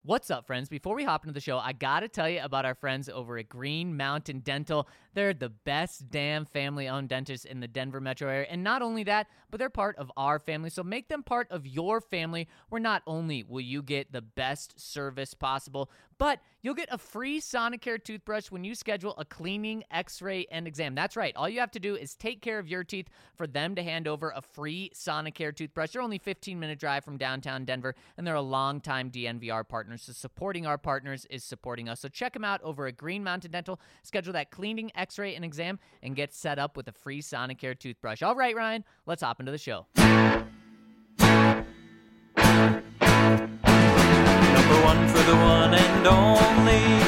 What's up, friends? Before we hop into the show, I gotta tell you about our friends over at Green Mountain Dental. They're the best damn family-owned dentist in the Denver metro area. And not only that, but they're part of our family. So make them part of your family, where not only will you get the best service possible, but you'll get a free Sonicare toothbrush when you schedule a cleaning, x-ray, and exam. That's right. All you have to do is take care of your teeth for them to hand over a free Sonicare toothbrush. They're only a 15-minute drive from downtown Denver, and they're a longtime DNVR partner. So supporting our partners is supporting us. So check them out over at Green Mountain Dental. Schedule that cleaning, x-ray, and exam, and get set up with a free Sonicare toothbrush. All right, Ryan, let's hop into the show. Number one for the one and only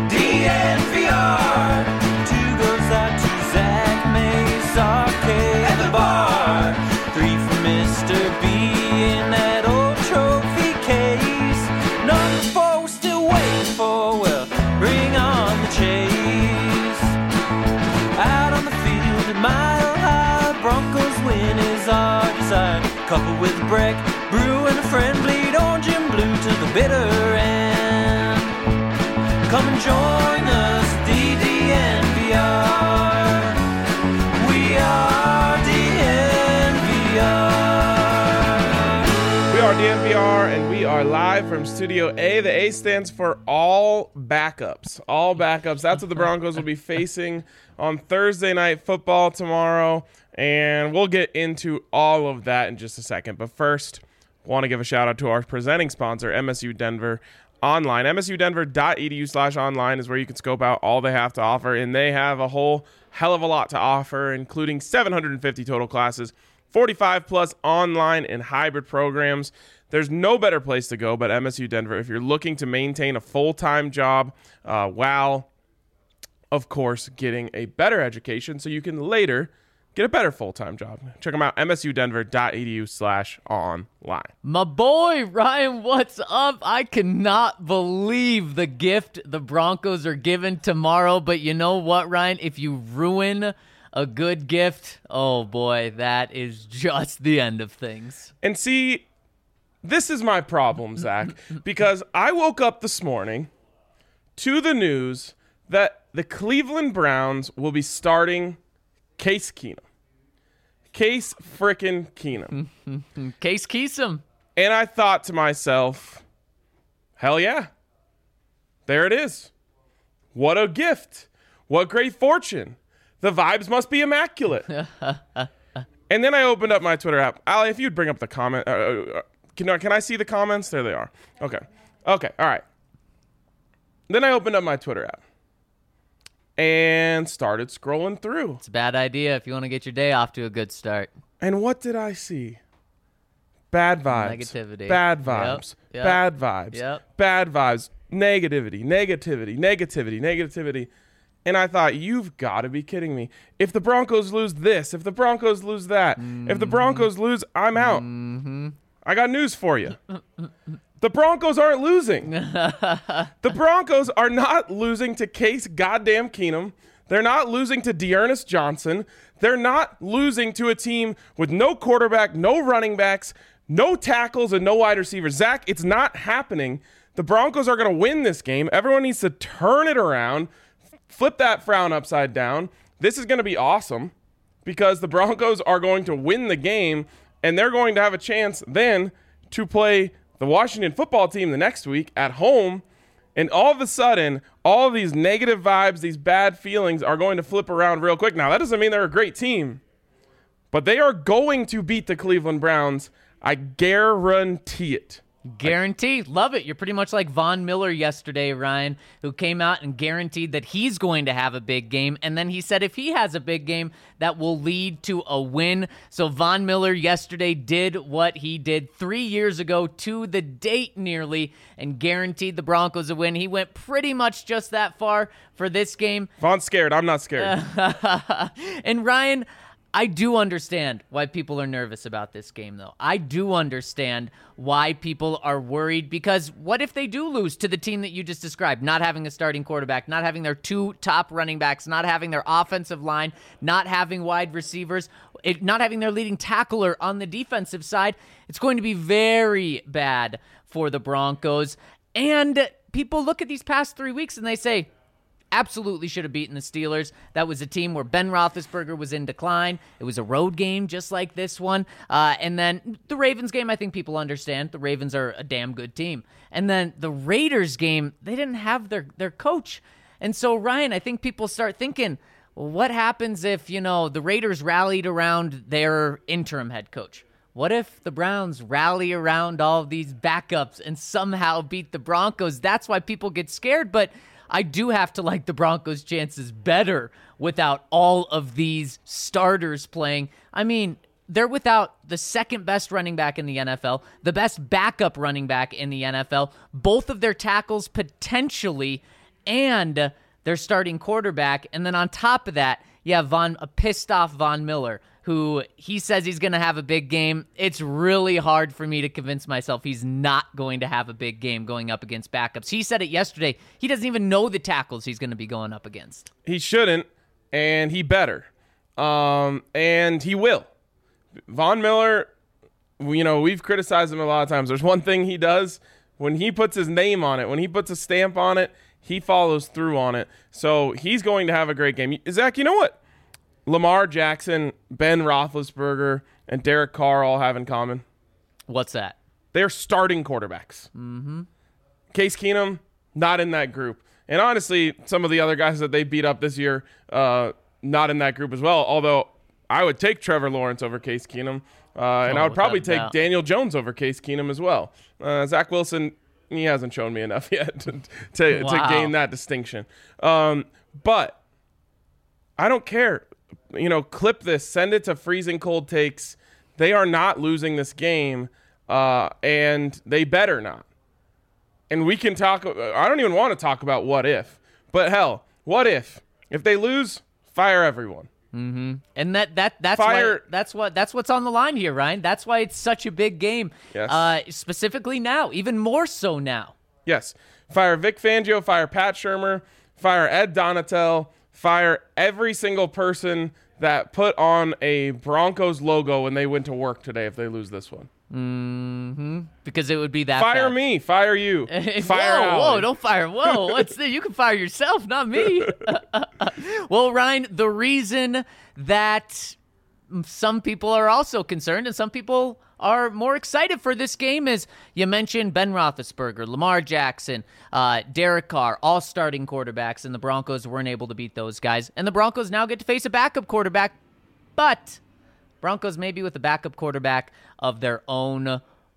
DNVR. Two goes out to Zach Mays, Arcade, and the bar. Three for Mr. B in that old trophy case. Number four we're still waiting for, well, bring on the chase. Out on the field at Mile High, Broncos win is our desire. Coupled with Breck, Brew, and a friend, bleed orange and blue to the bitter end. Come and join us, DNVR. We are DNVR. We are DNVR, and we are live from Studio A. The A stands for all backups. All backups. That's what the Broncos will be facing on Thursday Night Football tomorrow, and we'll get into all of that in just a second. But first, want to give a shout out to our presenting sponsor, MSU Denver Online. MSUdenver.edu/online is where you can scope out all they have to offer, and they have a whole hell of a lot to offer, including 750 total classes, 45 plus online and hybrid programs. There's no better place to go but MSU Denver if you're looking to maintain a full-time job while, of course, getting a better education so you can later get a better full-time job. Check them out, msudenver.edu/online. My boy, Ryan, what's up? I cannot believe the gift the Broncos are giving tomorrow. But you know what, Ryan? If you ruin a good gift, oh boy, that is just the end of things. And see, this is my problem, Zach, because I woke up this morning to the news that the Cleveland Browns will be starting Case Keenum. Case frickin' Keenum. Case Keesum. And I thought to myself, hell yeah. There it is. What a gift. What great fortune. The vibes must be immaculate. And then I opened up my Twitter app. Ali, if you'd bring up the comment. Can I see the comments? There they are. Okay. All right. Then I opened up my Twitter app and started scrolling through. It's a bad idea if you want to get your day off to a good start. And what did I see? Bad vibes. Negativity. Bad vibes. Yep. Bad vibes. Yep. Bad vibes. Negativity. And I thought, you've got to be kidding me. If the Broncos lose this, if the Broncos lose that, if the Broncos lose, I'm out. I got news for you. The Broncos aren't losing. The Broncos are not losing to Case goddamn Keenum. They're not losing to Dearness Johnson. They're not losing to a team with no quarterback, no running backs, no tackles, and no wide receivers. Zach, it's not happening. The Broncos are going to win this game. Everyone needs to turn it around, flip that frown upside down. This is going to be awesome because the Broncos are going to win the game, and they're going to have a chance then to play the Washington football team the next week at home. And all of a sudden, all of these negative vibes, these bad feelings are going to flip around real quick. Now, that doesn't mean they're a great team, but they are going to beat the Cleveland Browns. I guarantee it. Guaranteed. Love it. You're pretty much like Von Miller yesterday, Ryan, who came out and guaranteed that he's going to have a big game. And then he said if he has a big game, that will lead to a win. So Von Miller yesterday did what he did 3 years ago to the date nearly and guaranteed the Broncos a win. He went pretty much just that far for this game. Von's scared. I'm not scared. And Ryan, I do understand why people are nervous about this game, though. I do understand why people are worried, because what if they do lose to the team that you just described, not having a starting quarterback, not having their two top running backs, not having their offensive line, not having wide receivers, not having their leading tackler on the defensive side? It's going to be very bad for the Broncos. And people look at these past 3 weeks and they say, absolutely should have beaten the Steelers. That was a team where Ben Roethlisberger was in decline. It was a road game just like this one. And then the Ravens game, I think people understand. The Ravens are a damn good team. And then the Raiders game, they didn't have their coach. And so, Ryan, I think people start thinking, well, what happens if, the Raiders rallied around their interim head coach? What if the Browns rally around all of these backups and somehow beat the Broncos? That's why people get scared. But I do have to like the Broncos' chances better without all of these starters playing. I mean, they're without the second best running back in the NFL, the best backup running back in the NFL, both of their tackles potentially, and their starting quarterback. And then on top of that, you have a pissed-off Von Miller, who he says he's going to have a big game. It's really hard for me to convince myself he's not going to have a big game going up against backups. He said it yesterday. He doesn't even know the tackles he's going to be going up against. He shouldn't, and he better. And he will. Von Miller, we've criticized him a lot of times. There's one thing he does. When he puts his name on it, when he puts a stamp on it, he follows through on it. So he's going to have a great game. Zach, you know what Lamar Jackson, Ben Roethlisberger, and Derek Carr all have in common? What's that? They're starting quarterbacks. Mm-hmm. Case Keenum, not in that group. And honestly, some of the other guys that they beat up this year, not in that group as well. Although I would take Trevor Lawrence over Case Keenum, and I would probably take Daniel Jones over Case Keenum as well. Zach Wilson, he hasn't shown me enough yet to gain that distinction. But I don't care. Clip this, send it to Freezing Cold Takes. They are not losing this game, and they better not. And we can talk. I don't even want to talk about what if, but hell, what if they lose? Fire everyone. Mm-hmm. And that's what's on the line here, Ryan. That's why it's such a big game. Yes. Specifically now, even more so now. Yes. Fire Vic Fangio. Fire Pat Shurmur. Fire Ed Donatel. Fire every single person that put on a Broncos logo when they went to work today if they lose this one. Mm-hmm. Because it would be that Fire bad. me. Fire you. Fire whoa, don't fire. Whoa, what's this? You can fire yourself, not me. Well, Ryan, the reason that some people are also concerned and some people are more excited for this game is you mentioned Ben Roethlisberger, Lamar Jackson, Derek Carr, all starting quarterbacks, and the Broncos weren't able to beat those guys. And the Broncos now get to face a backup quarterback, but Broncos maybe with a backup quarterback of their own.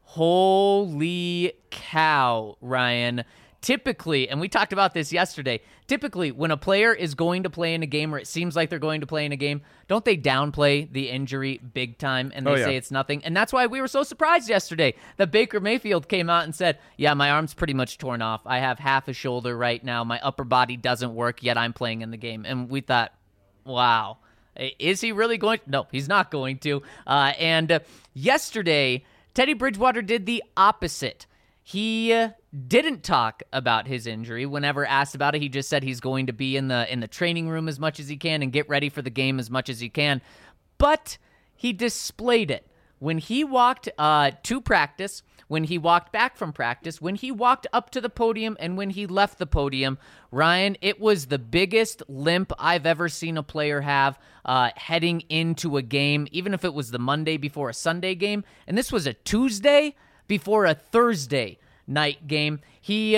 Holy cow, Ryan. Typically, and we talked about this yesterday, typically when a player is going to play in a game or it seems like they're going to play in a game, don't they downplay the injury big time and they say it's nothing? And that's why we were so surprised yesterday that Baker Mayfield came out and said, yeah, my arm's pretty much torn off. I have half a shoulder right now. My upper body doesn't work, yet I'm playing in the game. And we thought, wow, is he really going to? No, he's not going to. And yesterday, Teddy Bridgewater did the opposite. He didn't talk about his injury. Whenever asked about it, he just said he's going to be in the training room as much as he can and get ready for the game as much as he can. But he displayed it. When he walked to practice, when he walked back from practice, when he walked up to the podium, and when he left the podium, Ryan, it was the biggest limp I've ever seen a player have heading into a game, even if it was the Monday before a Sunday game. And this was a Tuesday before a Thursday night game. He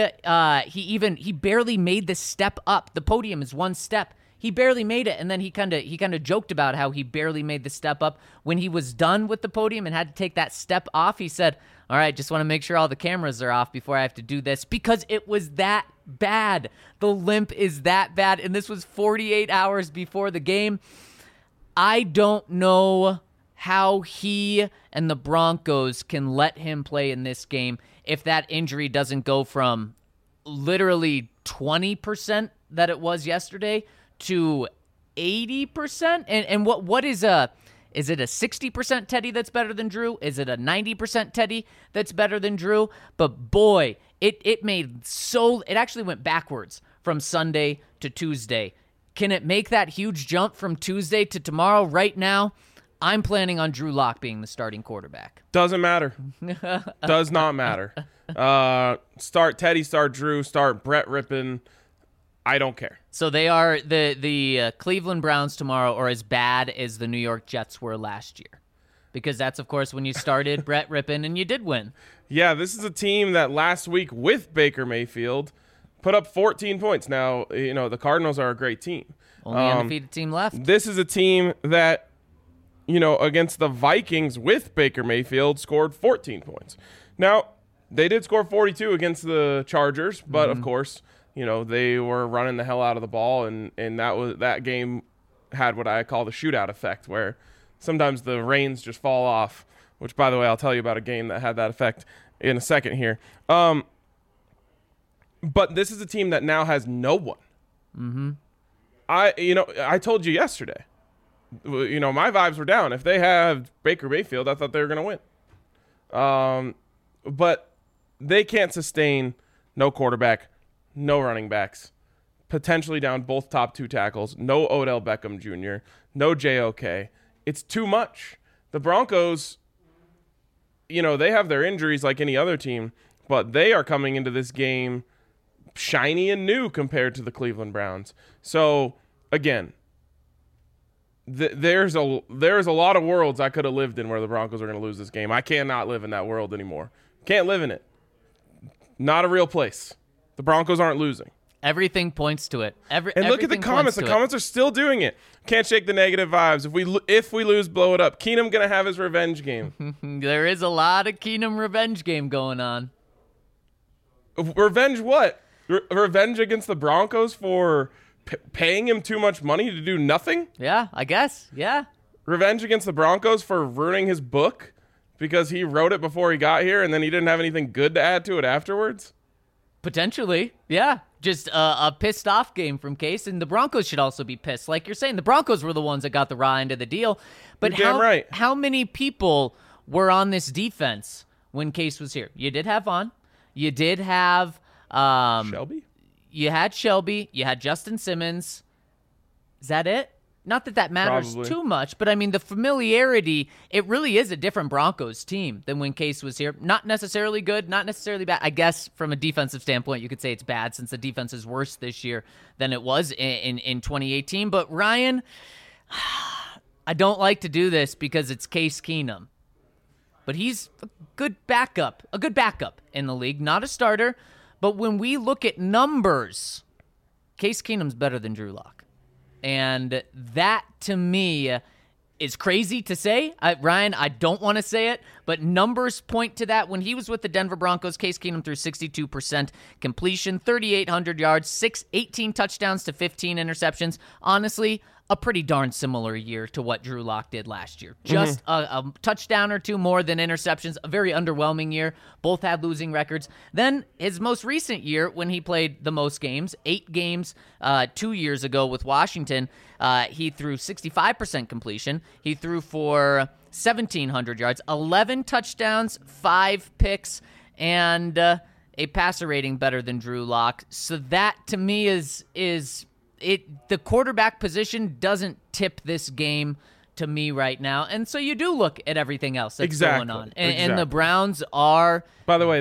barely made the step up. The podium is one step. He barely made it, and then he kind of joked about how he barely made the step up. When he was done with the podium and had to take that step off, he said, all right, just want to make sure all the cameras are off before I have to do this, because it was that bad. The limp is that bad, and this was 48 hours before the game. I don't know how he and the Broncos can let him play in this game if that injury doesn't go from literally 20% that it was yesterday to 80%. And what is it a 60% Teddy that's better than Drew? Is it a 90% Teddy that's better than Drew? But boy, it actually went backwards from Sunday to Tuesday. Can it make that huge jump from Tuesday to tomorrow? Right now, I'm planning on Drew Lock being the starting quarterback. Doesn't matter. Does not matter. Start Teddy, start Drew, start Brett Rippon. I don't care. So they are the Cleveland Browns tomorrow are as bad as the New York Jets were last year. Because that's, of course, when you started Brett Rippon and you did win. Yeah, this is a team that last week with Baker Mayfield put up 14 points. Now, the Cardinals are a great team. Only undefeated team left. This is a team that, against the Vikings with Baker Mayfield scored 14 points. Now, they did score 42 against the Chargers, but of course, they were running the hell out of the ball, and that game had what I call the shootout effect, where sometimes the reins just fall off, which, by the way, I'll tell you about a game that had that effect in a second here. But this is a team that now has no one. Mm-hmm. I told you yesterday, my vibes were down. If they have Baker Mayfield, I thought they were going to win. But they can't sustain no quarterback, no running backs, potentially down both top 2 tackles, no Odell Beckham Jr., no JOK. It's too much. The Broncos, they have their injuries like any other team, but they are coming into this game shiny and new compared to the Cleveland Browns. So, again, there's a lot of worlds I could have lived in where the Broncos are going to lose this game. I cannot live in that world anymore. Can't live in it. Not a real place. The Broncos aren't losing. Everything points to it. And look at the comments. The comments are still doing it. Can't shake the negative vibes. If we lose, blow it up. Keenum going to have his revenge game. There is a lot of Keenum revenge game going on. Revenge what? Revenge against the Broncos for paying him too much money to do nothing? Yeah, I guess. Yeah. Revenge against the Broncos for ruining his book because he wrote it before he got here and then he didn't have anything good to add to it afterwards? Potentially, yeah. Just a pissed off game from Case, and the Broncos should also be pissed. Like you're saying, the Broncos were the ones that got the raw end of the deal. But how many people were on this defense when Case was here? You did have Vaughn. You did have Shelby? You had Shelby. You had Justin Simmons. Is that it? Not that matters too much, but I mean, the familiarity, it really is a different Broncos team than when Case was here. Not necessarily good, not necessarily bad. I guess from a defensive standpoint, you could say it's bad since the defense is worse this year than it was in 2018. But Ryan, I don't like to do this because it's Case Keenum. But he's a good backup in the league, not a starter. But when we look at numbers, Case Keenum's better than Drew Lock. And that, to me, is crazy to say. Ryan, I don't want to say it, but numbers point to that. When he was with the Denver Broncos, Case Keenum threw 62% completion, 3,800 yards, 18 touchdowns to 15 interceptions. Honestly, a pretty darn similar year to what Drew Lock did last year. Just a touchdown or two more than interceptions. A very underwhelming year. Both had losing records. Then his most recent year when he played the most games, 8 games 2 years ago with Washington, he threw 65% completion. He threw for 1,700 yards, 11 touchdowns, 5 picks, and a passer rating better than Drew Lock. So that, to me, is the quarterback position doesn't tip this game to me right now. And so you do look at everything else that's going on. And the Browns are... By the way,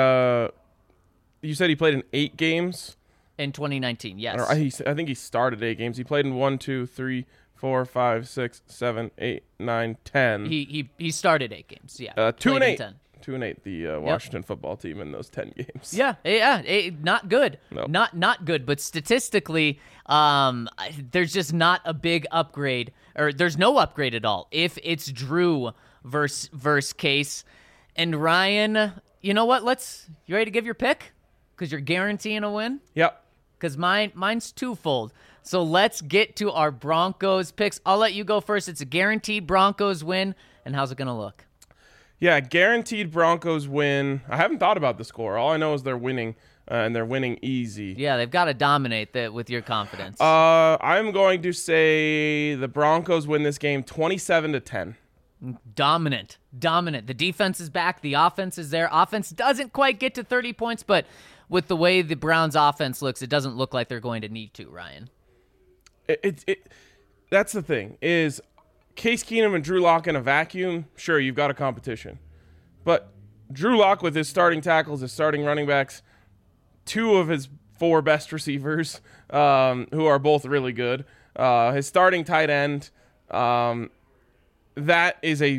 you said he played in 8 games? In 2019, yes. I think he started 8 games. He played in 1, 2, 3, 4, 5, 6, 7, 8, 9, 10. He started 8 games, yeah. 2 and 8. 2-8, the Washington football team in those 10 games. Yeah, not good. Nope. Not good, but statistically, there's just not a big upgrade, or there's no upgrade at all if it's Drew versus Case. And Ryan, you know what? You ready to give your pick? Because you're guaranteeing a win? Yep. Because mine's twofold. So let's get to our Broncos picks. I'll let you go first. It's a guaranteed Broncos win. And how's it going to look? Yeah, guaranteed Broncos win. I haven't thought about the score. All I know is they're winning, and they're winning easy. Yeah, they've got to dominate that with your confidence. I'm going to say the Broncos win this game 27-10. Dominant. The defense is back. The offense is there. Offense doesn't quite get to 30 points, but with the way the Browns' offense looks, it doesn't look like they're going to need to, Ryan. That's the thing, is Case Keenum and Drew Lock in a vacuum, sure, you've got a competition. But Drew Lock with his starting tackles, his starting running backs, 2 of his 4 best receivers, who are both really good, his starting tight end, that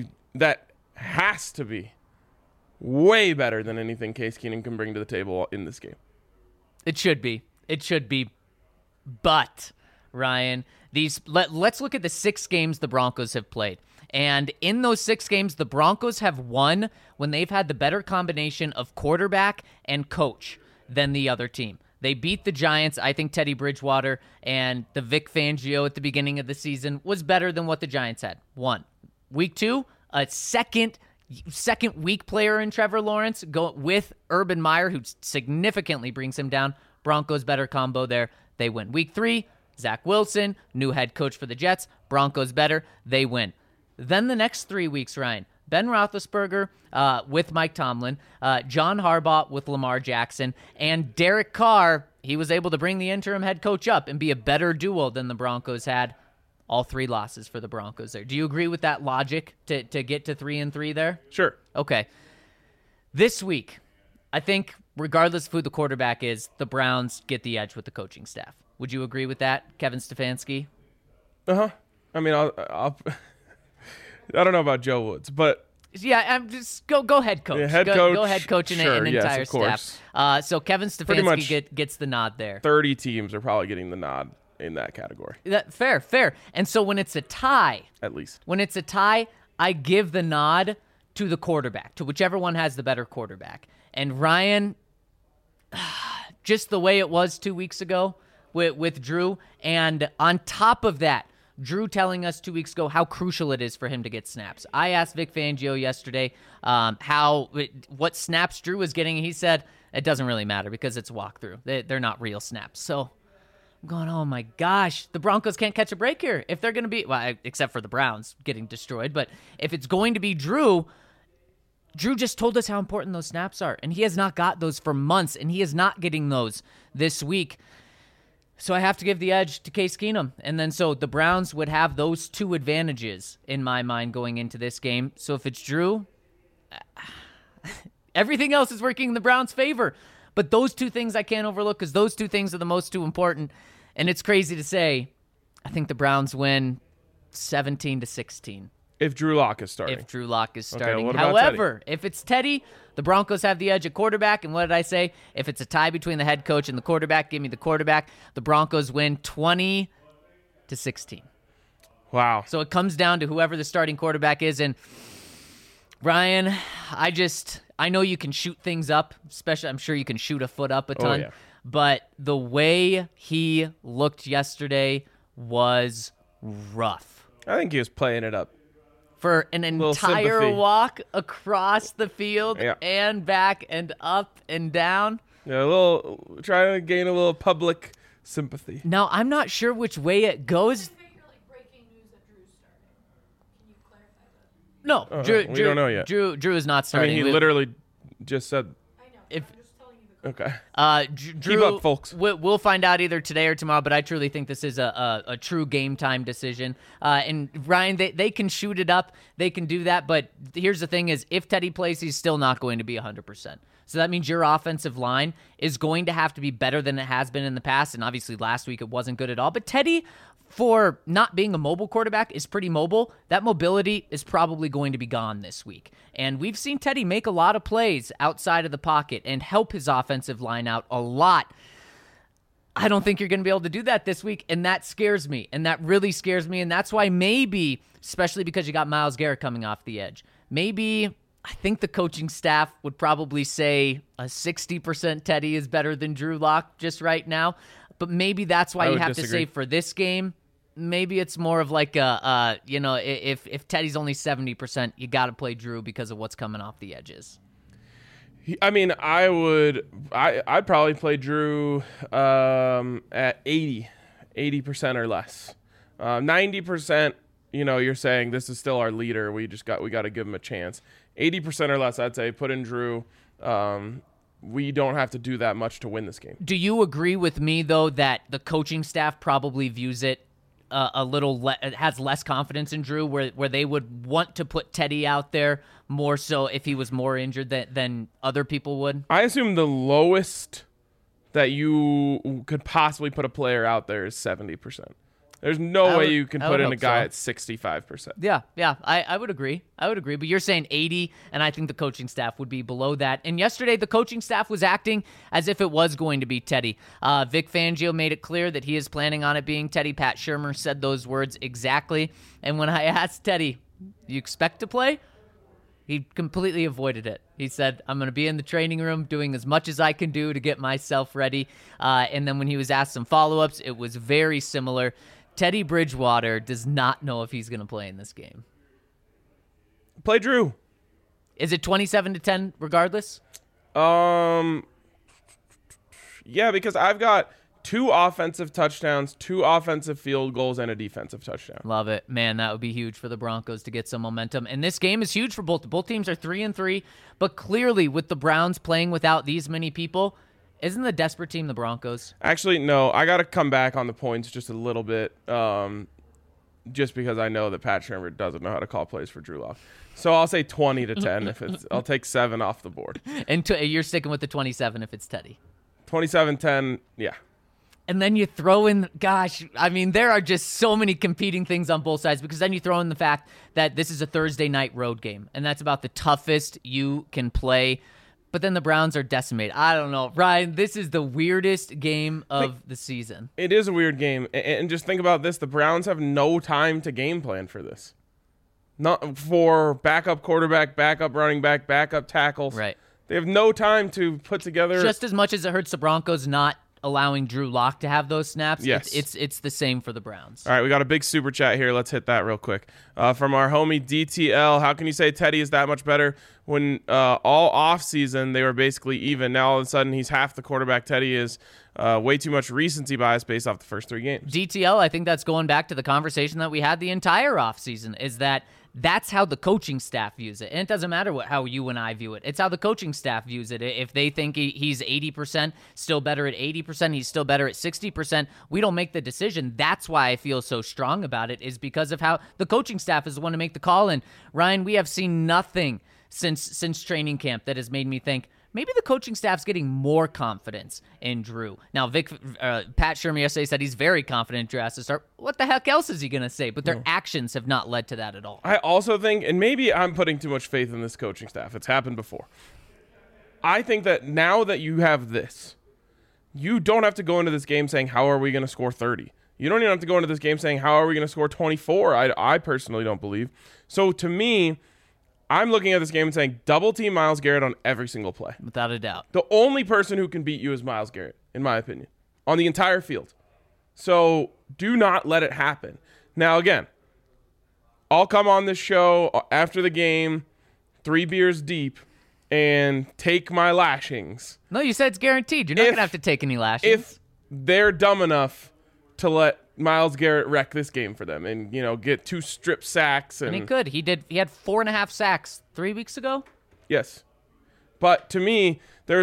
has to be way better than anything Case Keenum can bring to the table in this game. It should be. It should be. But, Ryan, let's look at the 6 games the Broncos have played. And in those 6 games, the Broncos have won when they've had the better combination of quarterback and coach than the other team. They beat the Giants. I think Teddy Bridgewater and the Vic Fangio at the beginning of the season was better than what the Giants had. 1. Week 2, a second weak player in Trevor Lawrence go with Urban Meyer, who significantly brings him down. Broncos better combo there. They win. Week 3, Zach Wilson, new head coach for the Jets. Broncos better. They win. Then the next 3 weeks, Ryan, Ben Roethlisberger with Mike Tomlin, John Harbaugh with Lamar Jackson, and Derek Carr. He was able to bring the interim head coach up and be a better duo than the Broncos had. All 3 losses for the Broncos there. Do you agree with that logic to get to 3-3 there? Sure. Okay. This week, I think regardless of who the quarterback is, the Browns get the edge with the coaching staff. Would you agree with that, Kevin Stefanski? Uh-huh. I mean, I'll I don't know about Joe Woods, but yeah, I'm just go head coach. Yeah, head coach. Go head coach and Sure, an yes, entire of course. staff. So Kevin Pretty much Stefanski gets the nod there. 30 teams are probably getting the nod in that category, Fair. And so when it's a tie, at least. I give the nod to the quarterback, to whichever one has the better quarterback. And Ryan, just the way it was 2 weeks ago with Drew, and on top of that, Drew telling us 2 weeks ago how crucial it is for him to get snaps. I asked Vic Fangio yesterday what snaps Drew was getting. He said it doesn't really matter because it's walkthrough. They're not real snaps. So I'm going, oh my gosh, the Broncos can't catch a break here. If they're going to be, except for the Browns getting destroyed, but if it's going to be Drew just told us how important those snaps are, and he has not got those for months, and he is not getting those this week. So I have to give the edge to Case Keenum. And then so the Browns would have those 2 advantages in my mind going into this game. So if it's Drew, everything else is working in the Browns' favor. But those 2 things I can't overlook because those 2 things are the most 2 important. And it's crazy to say, I think the Browns win 17-16. If Drew Lock is starting. If Drew Lock is starting. Okay, what about However, if it's Teddy, the Broncos have the edge at quarterback. And what did I say? If it's a tie between the head coach and the quarterback, give me the quarterback. The Broncos win 20-16. Wow. So it comes down to whoever the starting quarterback is. And Ryan, I know you can shoot things up, especially I'm sure you can shoot a foot up a ton. yeah. But the way he looked yesterday was rough. I think he was playing it up. For an entire sympathy. walk across the field Yeah. and back and up and down. Yeah, trying to gain a little public sympathy. Now, I'm not sure which way it goes. No, Drew, we don't know yet. Drew is not I starting. mean, he literally just said. If Okay. Drew, Keep up, folks. We'll find out either today or tomorrow, but I truly think this is a true game time decision. And Ryan, they can shoot it up. They can do that. But here's the thing is, if Teddy plays, he's still not going to be 100%. So that means your offensive line is going to have to be better than it has been in the past. And obviously last week it wasn't good at all. But Teddy, for not being a mobile quarterback, is pretty mobile. That mobility is probably going to be gone this week. And we've seen Teddy make a lot of plays outside of the pocket and help his offensive line out a lot. I don't think you're going to be able to do that this week, and that scares me, and that really scares me, and that's why maybe, especially because you got Myles Garrett coming off the edge, maybe I think the coaching staff would probably say a 60% Teddy is better than Drew Lock just right now, but maybe that's why you have to say for this game, maybe it's more of like if Teddy's only 70%, you got to play Drew because of what's coming off the edges. I mean, I'd probably play Drew at 80% or less. 90%, you're saying this is still our leader. We got to give him a chance. 80% or less, I'd say put in Drew. We don't have to do that much to win this game. Do you agree with me, though, that the coaching staff probably views it a little has less confidence in Drew, where they would want to put Teddy out there more so if he was more injured than other people would? I assume the lowest that you could possibly put a player out there is 70%. There's no way you can put in a guy at 65%. Yeah, I would agree. But you're saying 80, and I think the coaching staff would be below that. And yesterday, the coaching staff was acting as if it was going to be Teddy. Vic Fangio made it clear that he is planning on it being Teddy. Pat Shurmur said those words exactly. And when I asked Teddy, you expect to play? He completely avoided it. He said, I'm going to be in the training room doing as much as I can do to get myself ready. And then when he was asked some follow-ups, it was very similar. Teddy Bridgewater does not know if he's going to play in this game. Play Drew. Is it 27-10 regardless? Yeah, because I've got 2 offensive touchdowns, 2 offensive field goals, and a defensive touchdown. Love it. Man, that would be huge for the Broncos to get some momentum. And this game is huge for both. Both teams are 3-3, but clearly with the Browns playing without these many people, isn't the desperate team the Broncos? Actually, no. I got to come back on the points just a little bit, just because I know that Pat Shurmur doesn't know how to call plays for Drew Lock. So I'll say 20-10 I'll take 7 off the board. And you're sticking with the 27 if it's Teddy. 27-10, yeah. And then you throw in, there are just so many competing things on both sides, because then you throw in the fact that this is a Thursday night road game, and that's about the toughest you can play. But then the Browns are decimated. I don't know. Ryan, this is the weirdest game of the season. It is a weird game. And just think about this. The Browns have no time to game plan for this. Not for backup quarterback, backup running back, backup tackles. Right. They have no time to put together. Just as much as it hurts the Broncos not allowing Drew Lock to have those snaps, yes. It's the same for the Browns. All right, we got a big super chat here. Let's hit that real quick. From our homie DTL, how can you say Teddy is that much better when all offseason they were basically even? Now all of a sudden he's half the quarterback Teddy is. Way too much recency bias based off the first 3 games. DTL, I think that's going back to the conversation that we had the entire offseason, is that's how the coaching staff views it. And it doesn't matter how you and I view it. It's how the coaching staff views it. If they think he's 80%, still better at 80%, he's still better at 60%, we don't make the decision. That's why I feel so strong about it, is because of how the coaching staff is the one to make the call. And Ryan, we have seen nothing since training camp that has made me think, maybe the coaching staff's getting more confidence in Drew. Now, Pat Shurmur yesterday said he's very confident Drew has to start. What the heck else is he going to say? But their actions have not led to that at all. I also think, and maybe I'm putting too much faith in this coaching staff. It's happened before. I think that now that you have this, you don't have to go into this game saying, how are we going to score 30? You don't even have to go into this game saying, how are we going to score 24? I personally don't believe. So to me, I'm looking at this game and saying double team Myles Garrett on every single play. Without a doubt. The only person who can beat you is Myles Garrett, in my opinion, on the entire field. So do not let it happen. Now, again, I'll come on this show after the game, 3 beers deep, and take my lashings. No, you said it's guaranteed. You're not going to have to take any lashings. If they're dumb enough to let Myles Garrett wreck this game for them and, get 2 strip sacks. And he could. He had 4.5 sacks 3 weeks ago. Yes. But to me,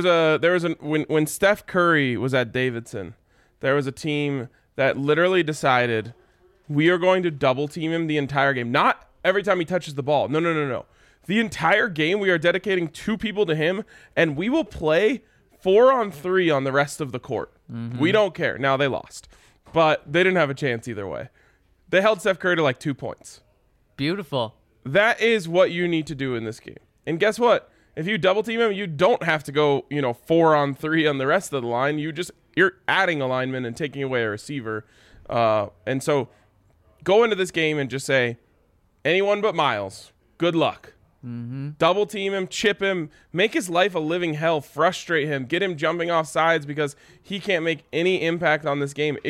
when Steph Curry was at Davidson, there was a team that literally decided we are going to double team him the entire game. Not every time he touches the ball. No. The entire game we are dedicating 2 people to him, and we will play 4-on-3 on the rest of the court. Mm-hmm. We don't care. Now they lost. But they didn't have a chance either way. They held Steph Curry to like 2 points. Beautiful. That is what you need to do in this game. And guess what? If you double team him, you don't have to go, 4-on-3 on the rest of the line. You're adding a lineman and taking away a receiver. And so go into this game and just say, anyone but Myles, good luck. Mm-hmm. Double team him, chip him, make his life a living hell, frustrate him, get him jumping off sides because he can't make any impact on this game.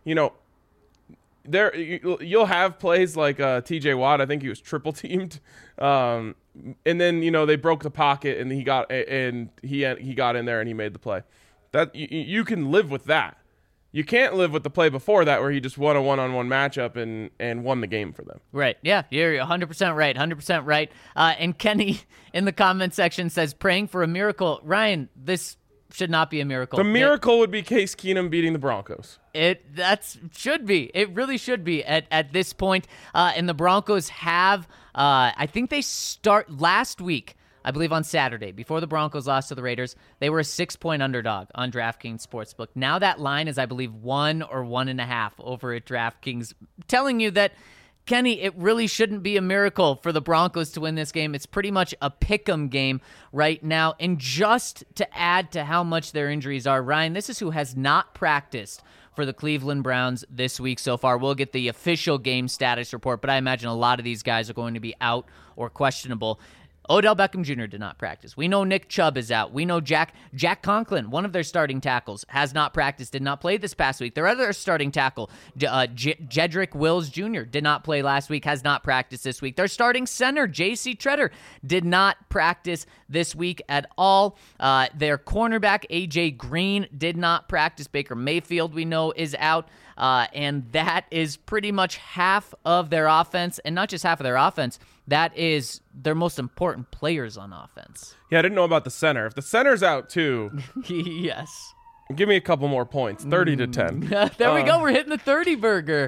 You'll have plays like TJ Watt. I think he was triple teamed, and then they broke the pocket and he got in there and he made the play. That you can live with that. You can't live with the play before that where he just won a one-on-one matchup and won the game for them. Right. Yeah, you're 100% right. 100% right. And Kenny in the comment section says, praying for a miracle. Ryan, this should not be a miracle. The miracle would be Case Keenum beating the Broncos. Should be. It really should be at this point. And the Broncos have, I think they start last week, I believe on Saturday, before the Broncos lost to the Raiders, they were a 6-point underdog on DraftKings Sportsbook. Now that line is, I believe, 1 or 1.5 over at DraftKings, telling you that, Kenny, it really shouldn't be a miracle for the Broncos to win this game. It's pretty much a pick'em game right now. And just to add to how much their injuries are, Ryan, this is who has not practiced for the Cleveland Browns this week so far. We'll get the official game status report, but I imagine a lot of these guys are going to be out or questionable. Odell Beckham Jr. did not practice. We know Nick Chubb is out. We know Jack Conklin, one of their starting tackles, has not practiced, did not play this past week. Their other starting tackle, Jedrick Wills Jr., did not play last week, has not practiced this week. Their starting center, J.C. Treader, did not practice this week at all. Their cornerback, A.J. Green, did not practice. Baker Mayfield, we know, is out. And that is pretty much half of their offense. And not just half of their offense, that is their most important players on offense. Yeah, I didn't know about the center. If the center's out too, yes. Give me a couple more points. 30-10. There we go. We're hitting the 30 burger.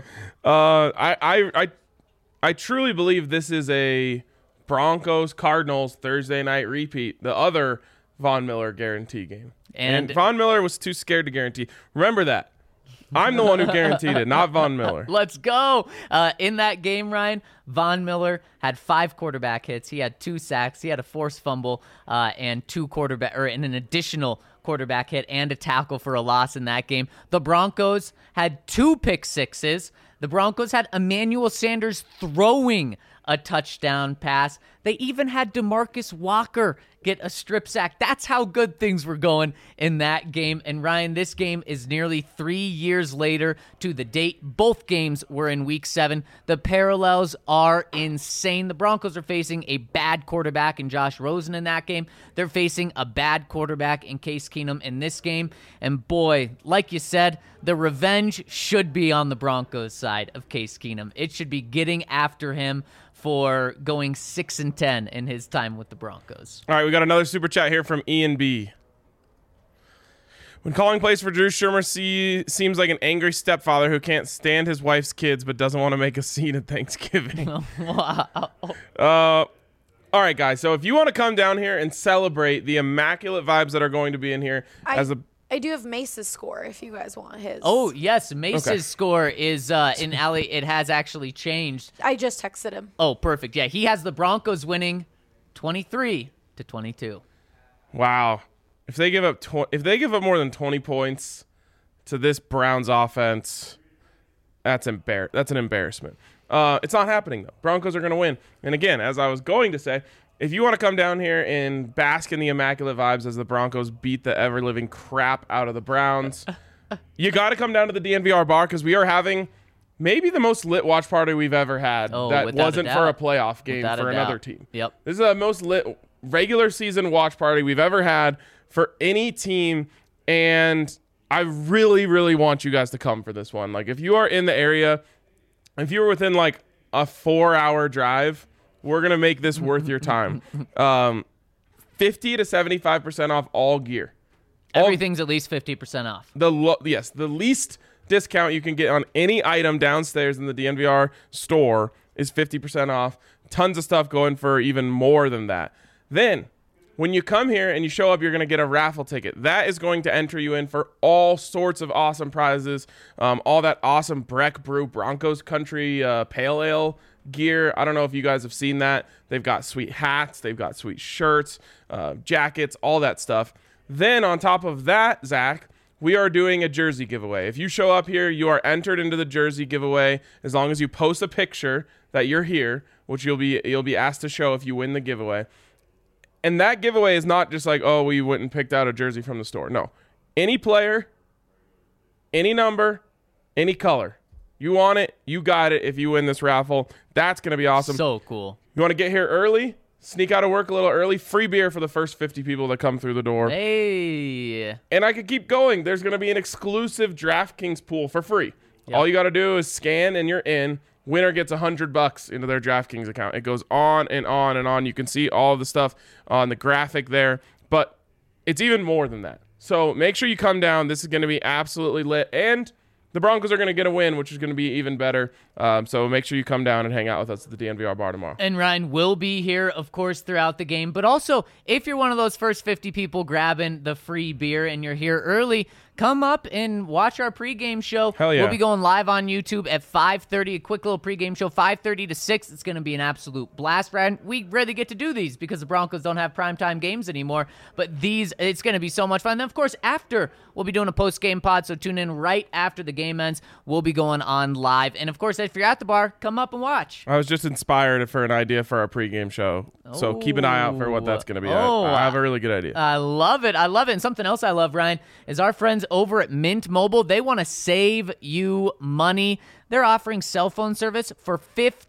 I truly believe this is a Broncos-Cardinals Thursday night repeat. The other Von Miller guarantee game. And Von Miller was too scared to guarantee. Remember that. I'm the one who guaranteed it, not Von Miller. Let's go. In that game, Ryan, Von Miller had 5 quarterback hits. He had 2 sacks. He had a forced fumble and an additional quarterback hit and a tackle for a loss in that game. The Broncos had 2 pick sixes. The Broncos had Emmanuel Sanders throwing a touchdown pass. They even had DeMarcus Walker get a strip sack. That's how good things were going in that game. And Ryan, this game is nearly 3 years later to the date. Both games were in week 7. The parallels are insane. The Broncos are facing a bad quarterback in Josh Rosen in that game. They're facing a bad quarterback in Case Keenum in this game. And boy, like you said, the revenge should be on the Broncos side of Case Keenum. It should be getting after him for going 6-10 in his time with the Broncos. All right, we got another super chat here from Ian B. When calling plays for Drew Shermer seems like an angry stepfather who can't stand his wife's kids but doesn't want to make a scene at Thanksgiving. Wow. All right, guys. So if you want to come down here and celebrate the immaculate vibes that are going to be in here I do have Mace's score if you guys want his. Oh, yes. Mace's score is in Alley. It has actually changed. I just texted him. Oh, perfect. Yeah, he has the Broncos winning 23-22. Wow. If they give up more than 20 points to this Browns offense, that's an embarrassment. It's not happening, though. Broncos are going to win. And again, as I was going to say, if you want to come down here and bask in the immaculate vibes as the Broncos beat the ever-living crap out of the Browns, you got to come down to the DNVR bar because we are having maybe the most lit watch party we've ever had that wasn't for a playoff game for another team. Yep. This is the most lit regular season watch party we've ever had for any team, and I really, really want you guys to come for this one. Like, if you are in the area, if you're within like a 4-hour drive, we're going to make this worth your time. 50 to 75% off all gear. Everything's at least 50% off. The least discount you can get on any item downstairs in the DNVR store is 50% off. Tons of stuff going for even more than that. Then, when you come here and you show up, you're going to get a raffle ticket. That is going to enter you in for all sorts of awesome prizes. All that awesome Breck Brew Broncos Country Pale Ale gear. I don't know if you guys have seen that. They've got sweet hats. They've got sweet shirts, jackets, all that stuff. Then on top of that, Zach, we are doing a jersey giveaway. If you show up here, you are entered into the jersey giveaway as long as you post a picture that you're here, which you'll be asked to show if you win the giveaway. And that giveaway is not just like, oh, we went and picked out a jersey from the store. No. Any player, any number, any color. You want it, you got it if you win this raffle. That's going to be awesome. So cool. You want to get here early? Sneak out of work a little early. Free beer for the first 50 people that come through the door. Hey. And I could keep going. There's going to be an exclusive DraftKings pool for free. Yep. All you got to do is scan and you're in. Winner gets $100 into their DraftKings account. It goes on and on and on. You can see all of the stuff on the graphic there. But it's even more than that. So make sure you come down. This is going to be absolutely lit. And the Broncos are going to get a win, which is going to be even better. So make sure you come down and hang out with us at the DNVR bar tomorrow. And Ryan will be here, of course, throughout the game. But also, if you're one of those first 50 people grabbing the free beer and you're here early, come up and watch our pregame show. Hell yeah. We'll be going live on YouTube at 5:30, a quick little pregame show, 5:30 to 6. It's going to be an absolute blast, Ryan. We rarely get to do these because the Broncos don't have primetime games anymore. But these, it's going to be so much fun. Then, of course, after, we'll be doing a post-game pod, so tune in right after the game ends. We'll be going on live. And, of course, if you're at the bar, come up and watch. I was just inspired for an idea for our pregame show. So keep an eye out for what that's going to be. I have a really good idea. I love it. I love it. And something else I love, Ryan, is our friends over at Mint Mobile. They want to save you money. They're offering cell phone service for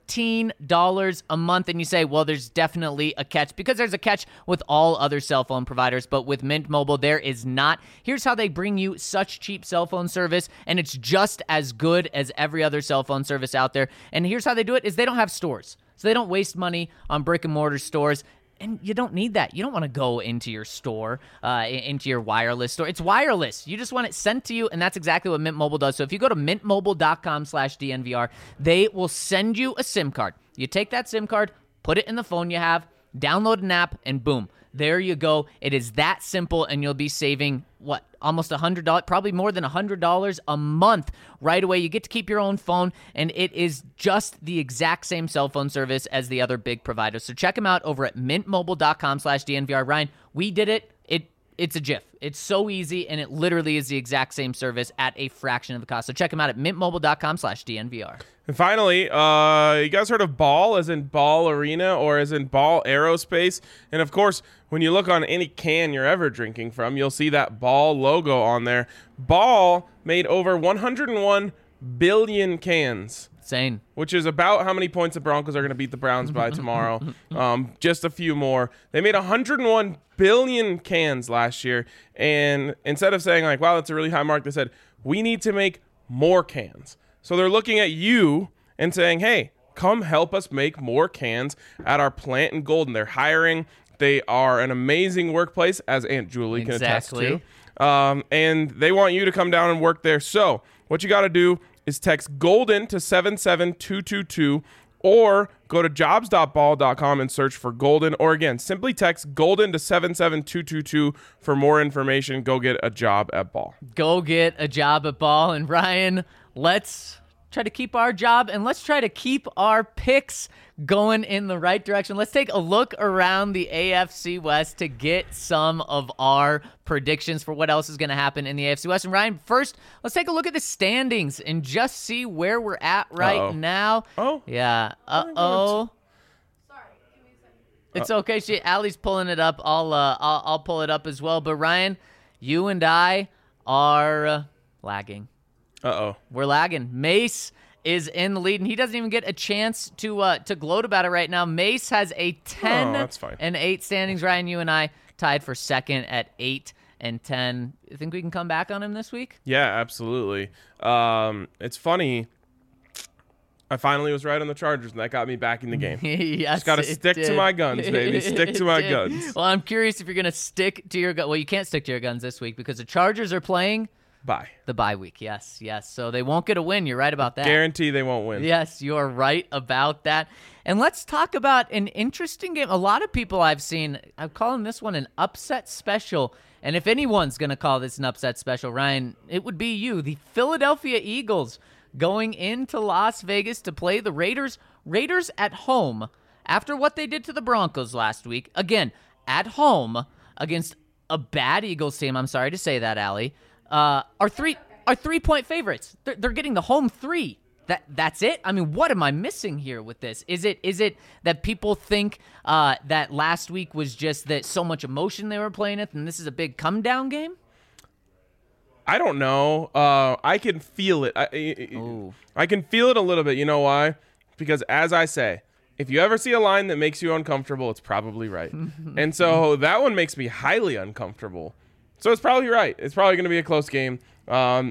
$15 a month. And you say, well, there's definitely a catch, because there's a catch with all other cell phone providers. But with Mint Mobile, there is not. Here's how they bring you such cheap cell phone service, and it's just as good as every other cell phone service out there. And here's how they do it is they don't have stores. So they don't waste money on brick and mortar stores. And you don't need that. You don't want to go into your store, into your wireless store. It's wireless. You just want it sent to you, and that's exactly what Mint Mobile does. So if you go to mintmobile.com/DNVR, they will send you a SIM card. You take that SIM card, put it in the phone you have, download an app, and boom. There you go. It is that simple, and you'll be saving, almost $100, probably more than $100 a month right away. You get to keep your own phone, and it is just the exact same cell phone service as the other big providers. So check them out over at mintmobile.com/DNVR. Ryan, we did it. It's a GIF. It's so easy, and it literally is the exact same service at a fraction of the cost. So check them out at mintmobile.com/DNVR. And finally, you guys heard of Ball, as in Ball Arena, or as in Ball Aerospace? And of course, when you look on any can you're ever drinking from, you'll see that Ball logo on there. Ball made over 101 billion cans. Insane. Which is about how many points the Broncos are going to beat the Browns by tomorrow. Just a few more. They made 101 billion cans last year. And instead of saying, like, wow, that's a really high mark, they said, we need to make more cans. So they're looking at you and saying, hey, come help us make more cans at our plant in Golden. They're hiring. They are an amazing workplace, as Aunt Julie can attest to. And they want you to come down and work there. So what you got to do is text Golden to 77222, or go to jobs.ball.com and search for Golden. Or again, simply text Golden to 77222 for more information. Go get a job at Ball. Go get a job at Ball. And Ryan, let's try to keep our job, and let's try to keep our picks going in the right direction. Let's take a look around the AFC West to get some of our predictions for what else is going to happen in the AFC West. And Ryan, first, let's take a look at the standings and just see where we're at right now. Oh? Yeah. Uh-oh. Sorry, give me a second. It's okay. Allie's pulling it up. I'll pull it up as well. But Ryan, you and I are lagging. Uh-oh. We're lagging. Mace is in the lead, and he doesn't even get a chance to gloat about it right now. Mace has a 10-8 standings. Ryan, you and I tied for second at 8 and 10. You think we can come back on him this week? Yeah, absolutely. It's funny. I finally was right on the Chargers, and that got me back in the game. Yes, just got to stick to my guns, baby. Stick to my guns. Well, I'm curious if you're going to stick to your guns. Well, you can't stick to your guns this week because the Chargers are playing Bye. the bye week. Yes. So they won't get a win. You're right about that. Guarantee they won't win. Yes, you're right about that. And let's talk about an interesting game. A lot of people I've seen, I'm calling this one an upset special. And if anyone's going to call this an upset special, Ryan, it would be you. The Philadelphia Eagles going into Las Vegas to play the Raiders. Raiders at home after what they did to the Broncos last week. Again, at home against a bad Eagles team. I'm sorry to say that, Allie. Are 3-point favorites. They're getting the home 3. That's it. I mean, what am I missing here with this? Is it that people think that last week was just that so much emotion they were playing it, and this is a big come down game? I don't know. I can feel it. I can feel it a little bit. You know why? Because as I say, if you ever see a line that makes you uncomfortable, it's probably right. And so that one makes me highly uncomfortable. So it's probably right. It's probably going to be a close game. Oh,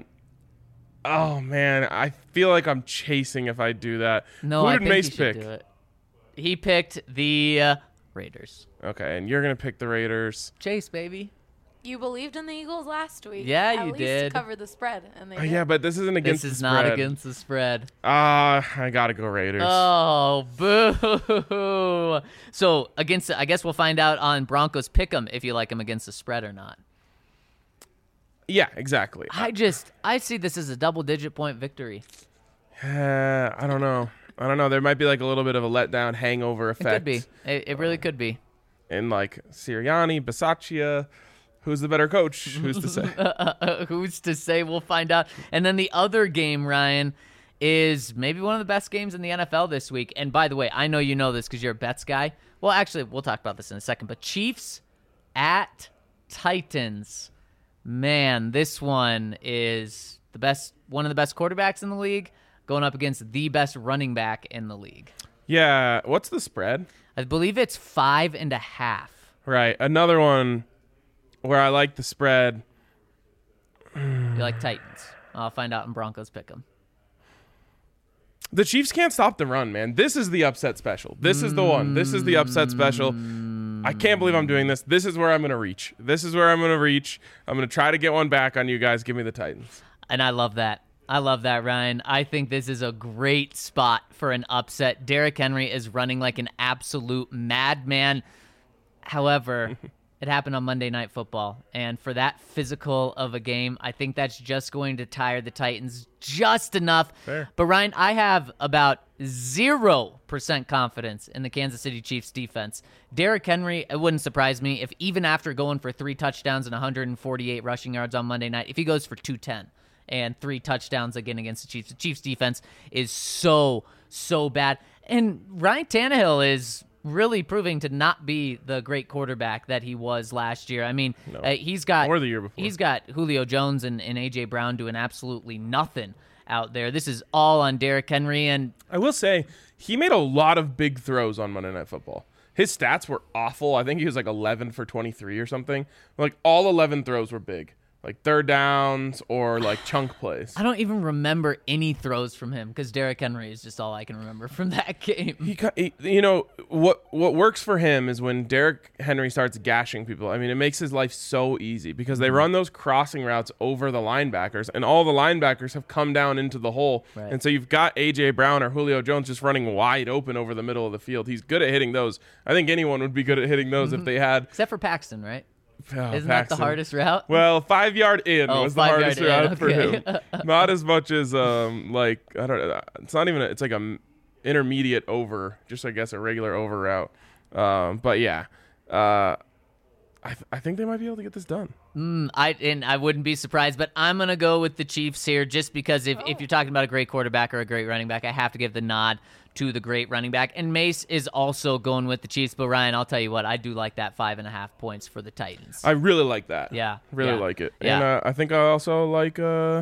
man. I feel like I'm chasing if I do that. No, Who I did think Mace you should pick? do it. He picked the Raiders. Okay, and you're going to pick the Raiders. Chase, baby. You believed in the Eagles last week. Yeah, At you least did. cover the spread, and they did. Yeah, but this isn't against This is the not spread. against the spread. I gotta go Raiders. Oh, boo. So, I guess we'll find out on Broncos Pick'em if you like them against the spread or not. Yeah, exactly. I see this as a double-digit point victory. I don't know. There might be like a little bit of a letdown hangover It effect. could be. It really could be. And like Sirianni, Bisaccia, who's the better coach? Who's to say? Who's to say? We'll find out. And then the other game, Ryan, is maybe one of the best games in the NFL this week. And by the way, I know you know this because you're a bets guy. Well, actually, we'll talk about this in a second. But Chiefs at Titans. Man, this one is one of the best quarterbacks in the league going up against the best running back in the league. Yeah. What's the spread? I believe it's 5.5. Right. Another one where I like the spread. You like Titans. I'll find out in Broncos Pick'em. The Chiefs can't stop the run, man. This is the upset special. This is the one. This is the upset special. I can't believe I'm doing this. This is where I'm going to reach. I'm going to try to get one back on you guys. Give me the Titans. And I love that. Ryan. I think this is a great spot for an upset. Derrick Henry is running like an absolute madman. However, it happened on Monday Night Football. And for that physical of a game, I think that's just going to tire the Titans just enough. Fair. But, Ryan, I have about 0% confidence in the Kansas City Chiefs defense. Derrick Henry, it wouldn't surprise me if even after going for 3 touchdowns and 148 rushing yards on Monday night, if he goes for 210 and 3 touchdowns again against the Chiefs. The Chiefs defense is so bad. And Ryan Tannehill is really proving to not be the great quarterback that he was last year. I mean, he's got Or the year before. He's got Julio Jones and A.J. Brown doing absolutely nothing out there. This is all on Derrick Henry. And I will say, he made a lot of big throws on Monday Night Football. His stats were awful. I think he was like 11 for 23 or something. Like all 11 throws were big. Like third downs or like chunk plays. I don't even remember any throws from him because Derrick Henry is just all I can remember from that game. What works for him is when Derrick Henry starts gashing people. I mean, it makes his life so easy because they run those crossing routes over the linebackers, and all the linebackers have come down into the hole. Right. And so you've got A.J. Brown or Julio Jones just running wide open over the middle of the field. He's good at hitting those. I think anyone would be good at hitting those if they had. Except for Paxton, right? Oh, Isn't that the hardest route? Well, 5 yard in was the 5 hardest yard in, route for okay. him. Not as much as like I don't know. It's not even. It's like a intermediate over, just I guess a regular over route. But yeah, I think they might be able to get this done. I wouldn't be surprised, but I'm gonna go with the Chiefs here just because if you're talking about a great quarterback or a great running back, I have to give the nod to the great running back. And Mace is also going with the Chiefs. But Ryan, I'll tell you what, I do like that 5.5 points for the Titans. I really like that. Yeah, really yeah, like it. yeah. And I think I also like.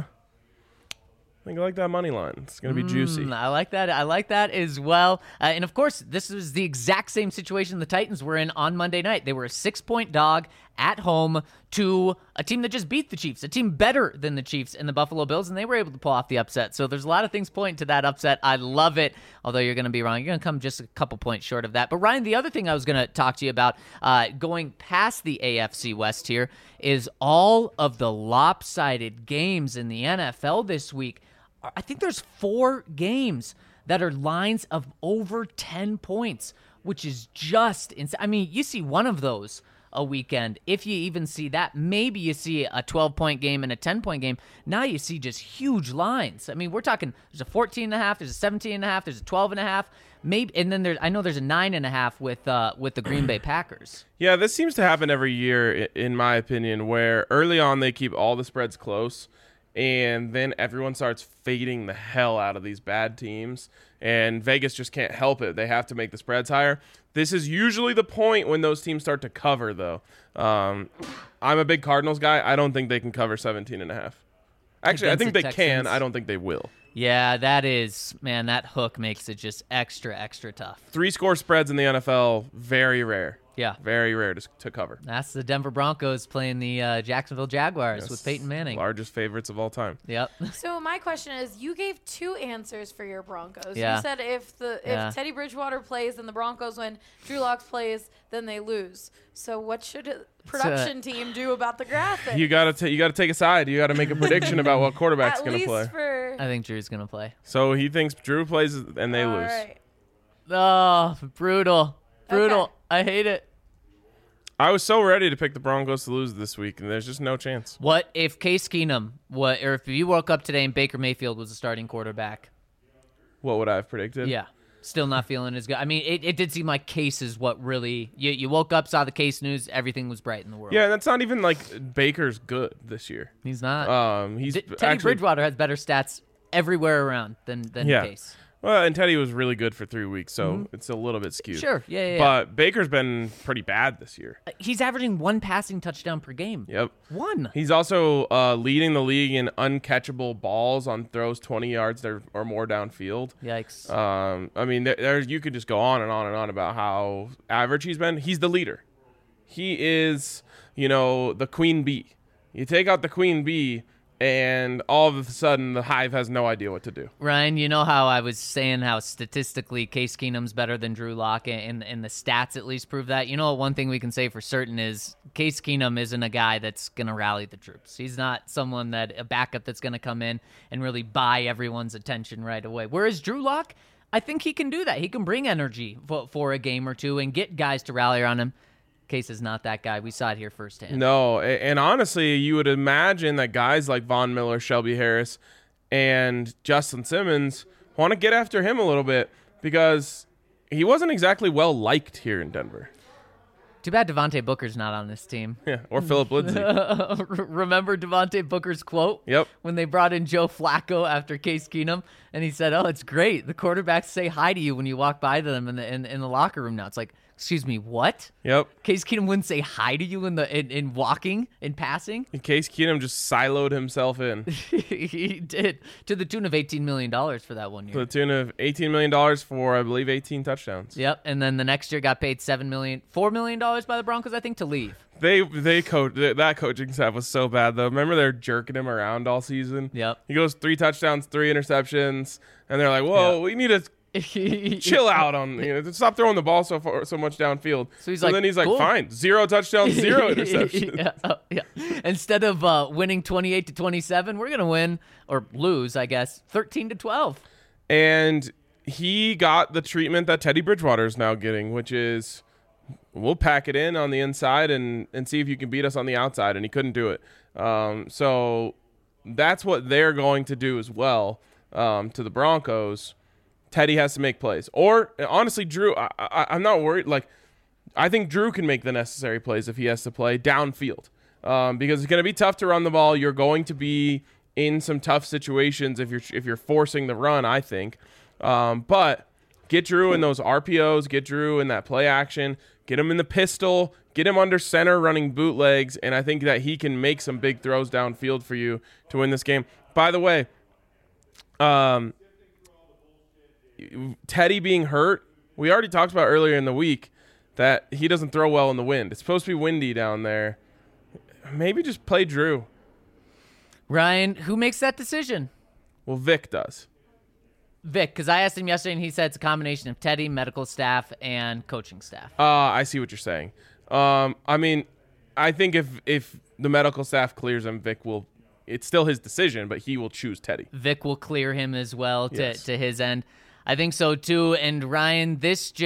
I think I like that money line. It's gonna be juicy. I like that. I like that as well. And of course, this was the exact same situation the Titans were in on Monday night. They were a 6-point dog at home to a team that just beat the Chiefs, a team better than the Chiefs and the Buffalo Bills, and they were able to pull off the upset. So there's a lot of things pointing to that upset. I love it, although you're going to be wrong. You're going to come just a couple points short of that. But Ryan, the other thing I was going to talk to you about going past the AFC West here is all of the lopsided games in the NFL this week. I think there's 4 games that are lines of over 10 points, which is just insane. I mean, you see one of those a weekend. If you even see that, maybe you see a 12-point game and a 10-point game. Now you see just huge lines. I mean, we're talking there's a 14.5, there's a 17.5, there's a 12.5, maybe, and then I know there's a 9.5 with the Green Bay Packers. Yeah, this seems to happen every year, in my opinion, where early on they keep all the spreads close, and then everyone starts fading the hell out of these bad teams, and Vegas just can't help it. They have to make the spreads higher. This is usually the point when those teams start to cover, though. I'm a big Cardinals guy. I don't think they can cover 17.5. Actually, I think they can. I don't think they will. Yeah, that hook makes it just extra, extra tough. 3-score spreads in the NFL, very rare. Yeah. Very rare to cover. That's the Denver Broncos playing the Jacksonville Jaguars Yes. with Peyton Manning. Largest favorites of all time. Yep. So my question is, you gave 2 answers for your Broncos. Yeah. You said if Teddy Bridgewater plays, then the Broncos win. Drew Lock plays, then they lose. So what should a production team do about the graphic? You gotta take a side. You gotta make a prediction about what quarterback's At gonna least play. for I think Drew's going to play. So he thinks Drew plays and they all lose. right. Oh, brutal. Brutal. Okay. I hate it. I was so ready to pick the Broncos to lose this week, and there's just no chance. What if Case Keenum, or if you woke up today and Baker Mayfield was the starting quarterback? What would I have predicted? Yeah. Still not feeling as good. I mean, it did seem like Case is what really... You woke up, saw the Case news, everything was bright in the world. Yeah, and that's not even like Baker's good this year. He's not. He's Teddy actually Bridgewater has better stats everywhere around than Yeah. Case. well, and Teddy was really good for 3 weeks, so it's a little bit skewed. Sure. Yeah. But Baker's been pretty bad this year. He's averaging 1 passing touchdown per game. Yep. 1. He's also leading the league in uncatchable balls on throws 20 yards or more downfield. Yikes. I mean, there's you could just go on and on and on about how average he's been. He's the leader. He is, the queen bee. You take out the queen bee, and all of a sudden the hive has no idea what to do. Ryan, you know how I was saying how statistically Case Keenum's better than Drew Lock, and the stats at least prove that? You know what, one thing we can say for certain is Case Keenum isn't a guy that's going to rally the troops. He's not a backup that's going to come in and really buy everyone's attention right away. Whereas Drew Lock, I think he can do that. He can bring energy for a game or two and get guys to rally around him. Case is not that guy. We saw it here firsthand. No, and honestly, you would imagine that guys like Von Miller, Shelby Harris, and Justin Simmons want to get after him a little bit because he wasn't exactly well liked here in Denver. Too bad Devontae Booker's not on this team. Yeah, or Philip Lindsay. Remember Devontae Booker's quote? Yep. When they brought in Joe Flacco after Case Keenum, and he said, "Oh, it's great. The quarterbacks say hi to you when you walk by them in the locker room now." It's like, excuse me, what? Yep. Case Keenum wouldn't say hi to you in walking, in passing? In case Keenum just siloed himself in. He did, to the tune of $18 million for that 1 To year. the tune of $18 million for, I believe, 18 touchdowns. Yep, and then the next year got paid $4 million by the Broncos, I think, to leave. That coaching staff was so bad, though. Remember they're jerking him around all season? Yep. He goes 3 touchdowns, 3 interceptions, and they're like, whoa, we need to chill out on, stop throwing the ball so much downfield. So he's like, then he's like, cool. fine, 0 touchdowns, 0 interceptions. Yeah. Instead of winning 28-27, we're gonna win or lose, I guess, 13-12. And he got the treatment that Teddy Bridgewater is now getting, which is, we'll pack it in on the inside and see if you can beat us on the outside, and he couldn't do it. So that's what they're going to do as well to the Broncos. Teddy has to make plays. Or, honestly, Drew, I'm not worried. Like, I think Drew can make the necessary plays if he has to play downfield because it's going to be tough to run the ball. You're going to be in some tough situations if you're forcing the run, I think. But get Drew in those RPOs, get Drew in that play action, get him in the pistol, get him under center running bootlegs, and I think that he can make some big throws downfield for you to win this game. By the way, Teddy being hurt, we already talked about earlier in the week that he doesn't throw well in the wind. It's supposed to be windy down there. Maybe just play Drew. Ryan, who makes that decision? Well, Vic does. Vic, because I asked him yesterday, and he said it's a combination of Teddy, medical staff, and coaching staff. I see what you're saying. I mean, I think if the medical staff clears him, Vic will. It's still his decision, but he will choose Teddy. Vic will clear him as well Yes. to his end. I think so too. And Ryan,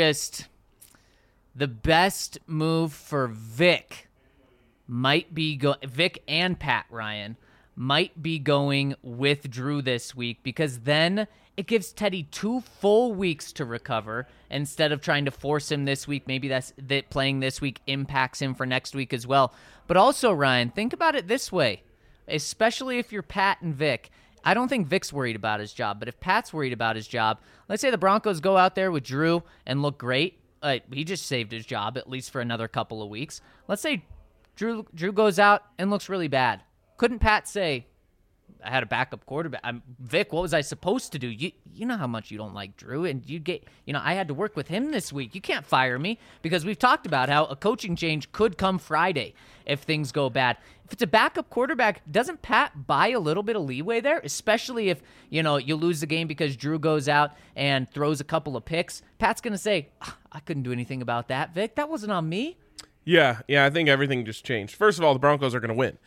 the best move for Vic might be Vic and Pat Ryan might be going with Drew this week, because then it gives Teddy 2 full weeks to recover instead of trying to force him this week. Maybe that playing this week impacts him for next week as well. But also, Ryan, think about it this way, especially if you're Pat and Vic. I don't think Vic's worried about his job, but if Pat's worried about his job, let's say the Broncos go out there with Drew and look great. He just saved his job, at least for another couple of weeks. Let's say Drew goes out and looks really bad. Couldn't Pat say, I had a backup quarterback. Vic, what was I supposed to do? You know how much you don't like Drew, and I had to work with him this week. You can't fire me, because we've talked about how a coaching change could come Friday if things go bad. If it's a backup quarterback, doesn't Pat buy a little bit of leeway there? Especially if, you lose the game because Drew goes out and throws a couple of picks. Pat's going to say, I couldn't do anything about that, Vic. That wasn't on me. Yeah, I think everything just changed. First of all, the Broncos are going to win.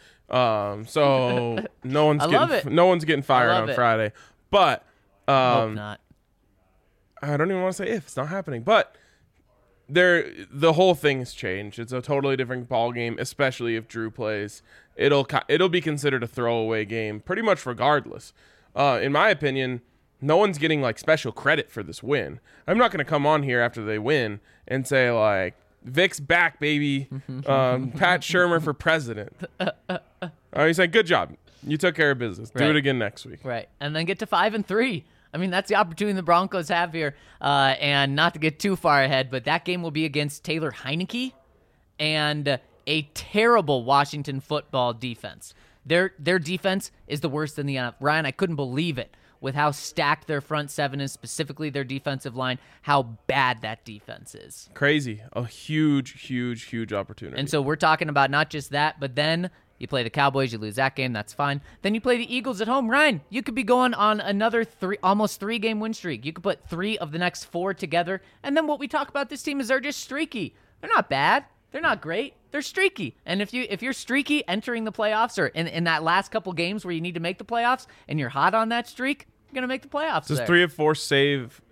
So no one's getting fired on Friday. But hope not. I don't even want to say if. It's not happening. But the whole thing has changed. It's a totally different ball game, especially if Drew plays. It'll be considered a throwaway game pretty much regardless. In my opinion, no one's getting like special credit for this win. I'm not going to come on here after they win and say like, Vic's back, baby. Pat Shurmur for president. He's like, good job. You took care of business. Right. Do it again next week. Right. And then get to 5-3. I mean, that's the opportunity the Broncos have here. And not to get too far ahead, but that game will be against Taylor Heineke and a terrible Washington football defense. Their defense is the worst in the NFL. Ryan, I couldn't believe it with how stacked their front seven is, specifically their defensive line, how bad that defense is. Crazy. A huge, huge, huge opportunity. And so we're talking about not just that, but then you play the Cowboys, you lose that game, that's fine. Then you play the Eagles at home. Ryan, you could be going on another almost 3-game win streak. You could put 3 of the next 4 together. And then what we talk about this team is they're just streaky. They're not bad. They're not great. They're streaky. And if you're streaky entering the playoffs or in that last couple games where you need to make the playoffs and you're hot on that streak, you're going to make the playoffs. Does 3 of 4 save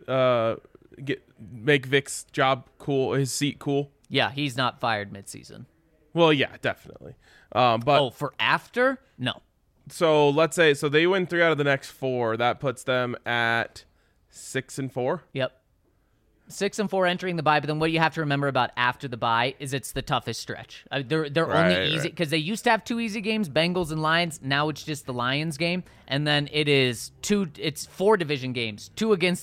make Vic's job cool, his seat cool? Yeah, he's not fired midseason. Well, yeah, definitely. But for after? No. So let's say they win 3 out of the next 4. That puts them at 6-4. Yep. 6-4 entering the bye, but then what you have to remember about after the bye is it's the toughest stretch. They're only easy because they used to have 2 easy games, Bengals and Lions. Now it's just the Lions game, and then it's 4 division games, 2 against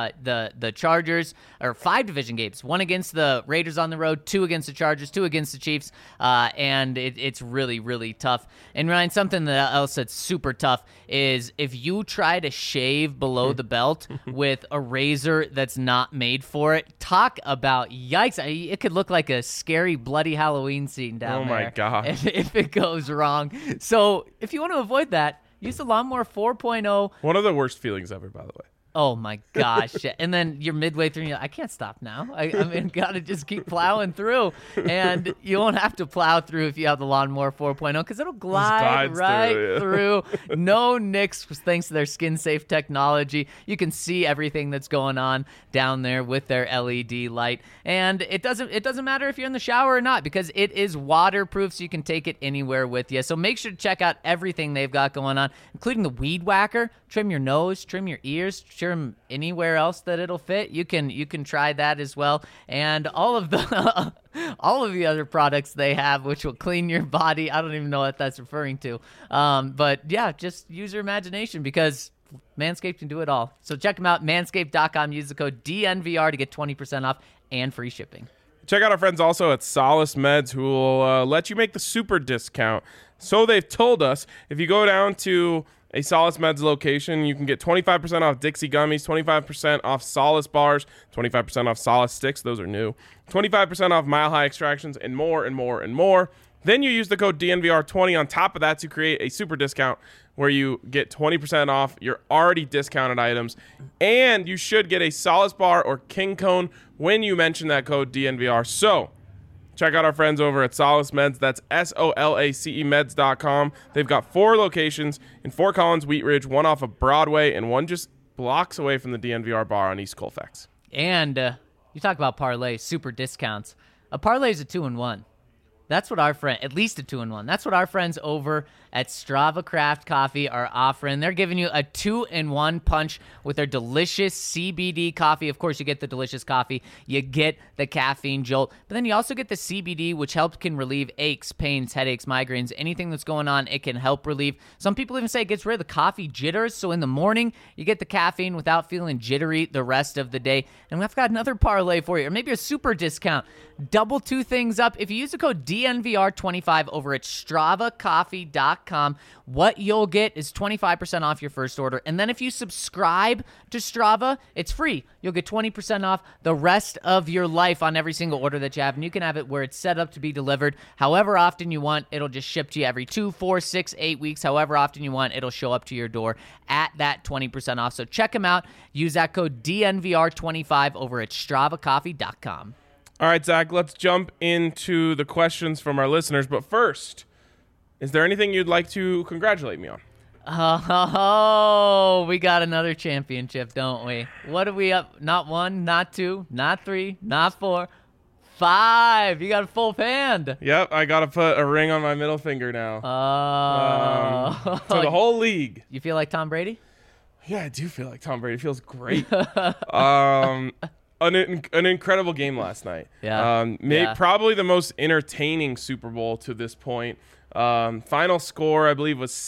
the Chargers, or 5 division games, 1 against the Raiders on the road, 2 against the Chargers, 2 against the Chiefs, and it's really, really tough. And Ryan, something else that's super tough is if you try to shave below the belt with a razor that's not made for it, talk about yikes. It could look like a scary, bloody Halloween scene down there. Oh, my God. If it goes wrong. So if you want to avoid that, use the Lawnmower 4.0. One of the worst feelings ever, by the way. Oh, my gosh. And then you're midway through and you're like, I can't stop now. I mean, got to just keep plowing through. And you won't have to plow through if you have the Lawnmower 4.0 because it'll glide right through. No nicks thanks to their skin-safe technology. You can see everything that's going on down there with their LED light. And it doesn't matter if you're in the shower or not because it is waterproof, so you can take it anywhere with you. So make sure to check out everything they've got going on, including the Weed Whacker. Trim your nose, trim your ears, trim anywhere else that it'll fit. You can try that as well, and all of the other products they have, which will clean your body. I don't even know what that's referring to, but yeah, just use your imagination because Manscaped can do it all. So check them out, manscaped.com. Use the code DNVR to get 20% off and free shipping. Check out our friends also at Solace Meds, who will let you make the super discount. So they've told us if you go down to a Solace Meds location, you can get 25% off Dixie Gummies, 25% off Solace Bars, 25% off Solace Sticks, those are new, 25% off Mile High Extractions, and more and more and more. Then you use the code DNVR20 on top of that to create a super discount where you get 20% off your already discounted items, and you should get a Solace Bar or King Cone when you mention that code DNVR. So check out our friends over at Solace Meds. That's SOLACE meds.com. They've got 4 locations in Fort Collins, Wheat Ridge, 1 off of Broadway, and 1 just blocks away from the DNVR bar on East Colfax. And you talk about parlay, super discounts. A parlay is a 2-in-1. That's what at least a 2-in-1. That's what our friends over at Strava Craft Coffee are offering. They're giving you a 2-in-1 punch with their delicious CBD coffee. Of course, you get the delicious coffee. You get the caffeine jolt. But then you also get the CBD, which can relieve aches, pains, headaches, migraines, anything that's going on, it can help relieve. Some people even say it gets rid of the coffee jitters. So in the morning, you get the caffeine without feeling jittery the rest of the day. And we've got another parlay for you, or maybe a super discount. Double 2 things up. If you use the code DNVR25 over at StravaCoffee.com. What you'll get is 25% off your first order. And then if you subscribe to Strava, it's free. You'll get 20% off the rest of your life on every single order that you have. And you can have it where it's set up to be delivered however often you want. It'll just ship to you every 2, 4, 6, 8 weeks. However often you want, it'll show up to your door at that 20% off. So check them out. Use that code DNVR25 over at StravaCoffee.com. All right, Zach, let's jump into the questions from our listeners. But first, is there anything you'd like to congratulate me on? Oh, we got another championship, don't we? What are we up? Not 1, not 2, not 3, not 4, 5. You got a full hand. Yep, I got to put a ring on my middle finger now. To the whole league. You feel like Tom Brady? Yeah, I do feel like Tom Brady. It feels great. An incredible game last night. Yeah. Probably the most entertaining Super Bowl to this point. Final score, I believe, was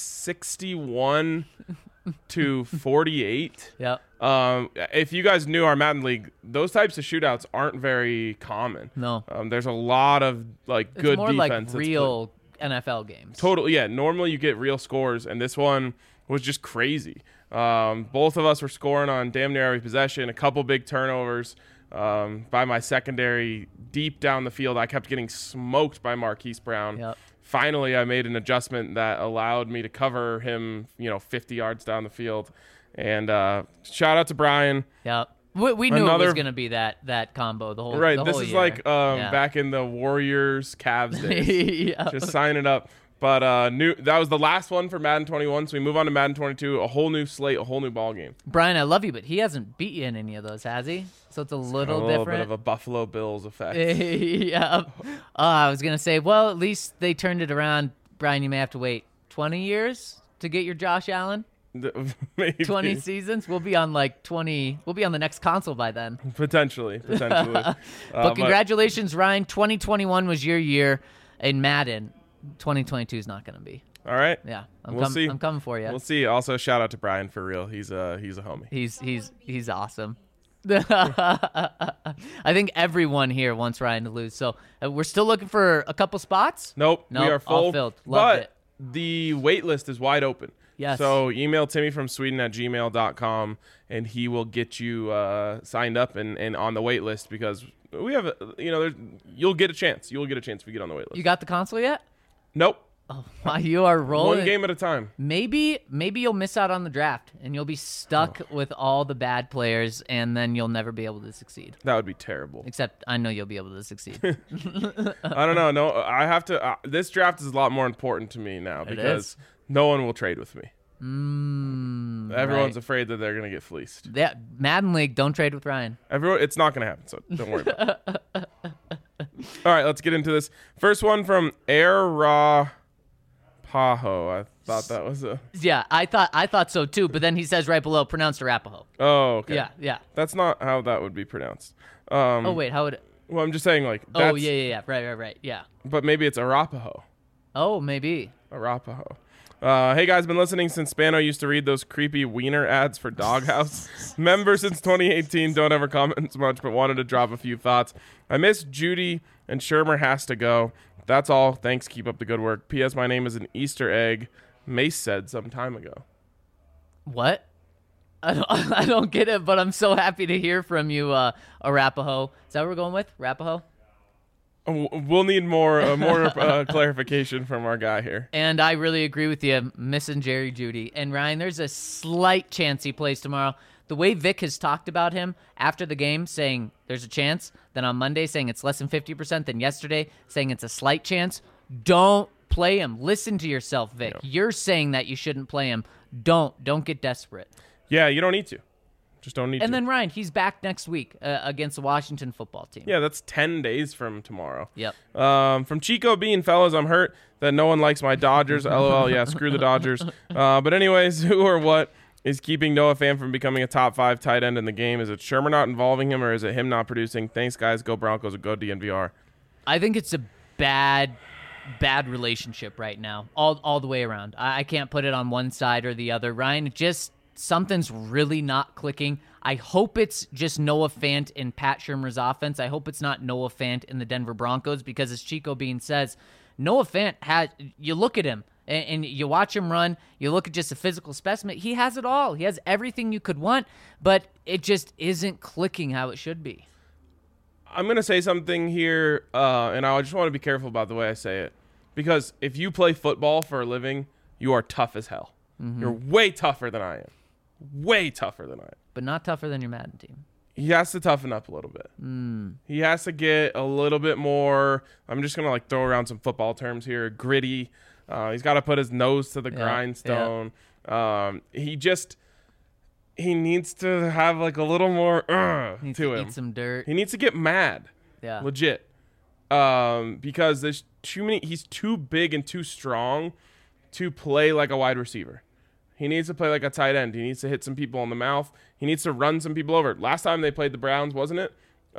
61 to 48. Yep. If you guys knew our Madden League, those types of shootouts aren't very common. No. There's a lot of like good more defense. Like real NFL games. Totally, yeah. Normally you get real scores, and this one was just crazy. Both of us were scoring on damn near every possession, a couple big turnovers by my secondary deep down the field. I kept getting smoked by Marquise Brown. Yep. Finally, I made an adjustment that allowed me to cover him, 50 yards down the field. And shout out to Brian. Yep. We knew it was going to be that combo the whole right. The this whole is year. like back in the Warriors Cavs days. Yep. Just sign it up. But that was the last one for Madden 21, so we move on to Madden 22, a whole new slate, a whole new ball game. Brian, I love you, but he hasn't beat you in any of those, has he? So it's a little different. Bit of a Buffalo Bills effect. Yeah. I was going to say, well, at least they turned it around. Brian, you may have to wait 20 years to get your Josh Allen. Maybe. 20 seasons. We'll be on like 20. We'll be on the next console by then. Potentially. But congratulations, Ryan. 2021 was your year in Madden. 2022 is not going to be. All right. Yeah, We'll see. I'm coming for you. We'll see. Also, shout out to Brian for real. He's a homie. He's awesome. I think everyone here wants Ryan to lose. So we're still looking for a couple spots. Nope. We are full. All filled. Loved it. The wait list is wide open. Yes. So email Timmy from Sweden at gmail.com and he will get you signed up and on the wait list because we have you'll get a chance. You will get a chance if you get on the wait list. You got the console yet? Nope. Oh, wow, you are rolling. One game at a time. Maybe you'll miss out on the draft and you'll be stuck with all the bad players and then you'll never be able to succeed. That would be terrible. Except I know you'll be able to succeed. I don't know. No, I have to. This draft is a lot more important to me now because no one will trade with me. Everyone's afraid that they're going to get fleeced. Yeah, Madden League, don't trade with Ryan. It's not going to happen, so don't worry about it. All right, let's get into this. First one from Air Raw Paho. I thought that was a... Yeah, I thought so too, but then he says right below, pronounced Arapaho. Oh, okay. Yeah. That's not how that would be pronounced. Oh, wait, how would it... Well, I'm just saying, like... Oh, yeah. Right. Yeah. But maybe it's Arapaho. Oh, maybe. Arapaho. Hey guys, been listening since Spano used to read those creepy wiener ads for Doghouse. Member since 2018, don't ever comment much, but wanted to drop a few thoughts. I miss Judy and Shermer has to go. That's all. Thanks. Keep up the good work. P.S. My name is an Easter egg. Mace said some time ago. What? I don't get it, but I'm so happy to hear from you, Arapaho. Is that what we're going with? Arapaho? We'll need more clarification from our guy here. And I really agree with you, missing Jerry Judy. And Ryan, there's a slight chance he plays tomorrow. The way Vic has talked about him after the game, saying there's a chance, then on Monday saying it's less than 50%, then yesterday saying it's a slight chance, don't play him. Listen to yourself, Vic. Yeah. You're saying that you shouldn't play him. Don't get desperate. Yeah, you don't need to. Just don't need to. And then, Ryan, he's back next week against the Washington football team. Yeah, that's 10 days from tomorrow. Yep. From Chico Bean, fellas, I'm hurt that no one likes my Dodgers. LOL, yeah, screw the Dodgers. But anyways, who or what is keeping Noah Fant from becoming a top 5 tight end in the game? Is it Shermer not involving him, or is it him not producing? Thanks, guys. Go Broncos or go DNVR. I think it's a bad relationship right now, all the way around. I can't put it on one side or the other. Ryan, just something's really not clicking. I hope it's just Noah Fant in Pat Shurmur's offense. I hope it's not Noah Fant in the Denver Broncos, because as Chico Bean says, Noah Fant you look at him and you watch him run, you look at just a physical specimen, he has it all. He has everything you could want, but it just isn't clicking how it should be. I'm going to say something here, and I just want to be careful about the way I say it, because if you play football for a living, you are tough as hell. Mm-hmm. You're way tougher than I am. Way tougher than I am. But not tougher than your Madden team. He has to toughen up a little bit. He has to get a little bit more, I'm just going to like throw around some football terms here, gritty. He's got to put his nose to the grindstone. Yeah. He needs to have like a little more to him. Eat some dirt. He needs to get mad. Yeah. Legit. Because there's too many. He's too big and too strong to play like a wide receiver. He needs to play like a tight end. He needs to hit some people in the mouth. He needs to run some people over. Last time they played the Browns, wasn't it?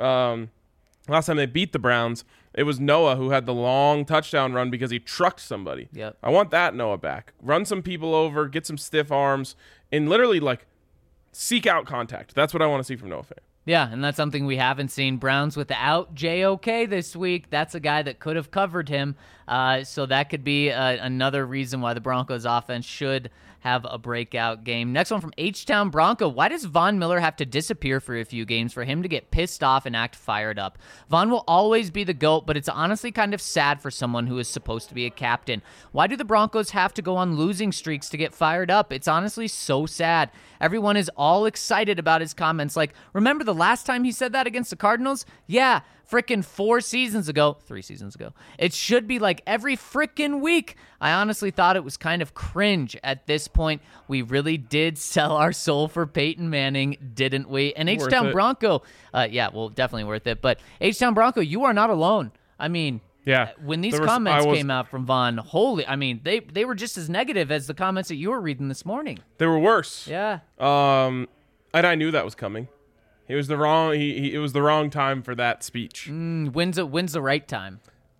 Last time they beat the Browns, it was Noah who had the long touchdown run because he trucked somebody. Yep. I want that Noah back. Run some people over, get some stiff arms, and literally like seek out contact. That's what I want to see from Noah Fant. Yeah, and that's something we haven't seen. Browns without JOK this week. That's a guy that could have covered him. So that could be another reason why the Broncos offense should have a breakout game. Next one from H-Town Bronco. Why does Von Miller have to disappear for a few games for him to get pissed off and act fired up? Von will always be the GOAT, but it's honestly kind of sad for someone who is supposed to be a captain. Why do the Broncos have to go on losing streaks to get fired up? It's honestly so sad. Everyone is all excited about his comments. Like, remember the last time he said that against the Cardinals? Yeah, frickin' 3 seasons ago. It should be like every frickin' week. I honestly thought it was kind of cringe at this point. We really did sell our soul for Peyton Manning, didn't we? And H-Town Bronco, definitely worth it. But H-Town Bronco, you are not alone. I mean, yeah, when these comments came out from Von, they were just as negative as the comments that you were reading this morning. They were worse. Yeah. And I knew that was coming. It was the wrong. It was the wrong time for that speech. When's the right time?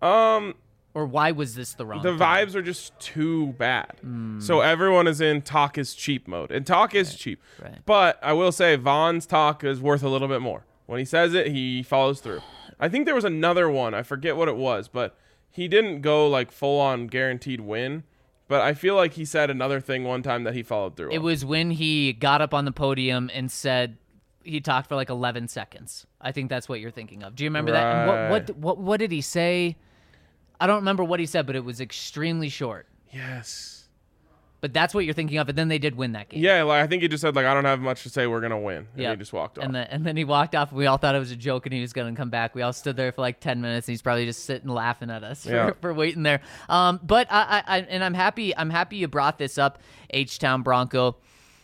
Or why was this the wrong time? The vibes are just too bad. So everyone is in talk is cheap mode, and talk is cheap. Right. But I will say Von's talk is worth a little bit more. When he says it, he follows through. I think there was another one. I forget what it was, but he didn't go like full on guaranteed win. But I feel like he said another thing one time that he followed through on. It was when he got up on the podium and said he talked for like 11 seconds. I think that's what you're thinking of. Do you remember that? And what did he say? I don't remember what he said, but it was extremely short. Yes. But that's what you're thinking of, and then they did win that game. Yeah, like I think he just said, like, I don't have much to say, we're going to win. And he just walked off. And then he walked off, and we all thought it was a joke, and he was going to come back. We all stood there for like 10 minutes, and he's probably just sitting laughing at us for waiting there. But I'm happy you brought this up, H-Town Bronco.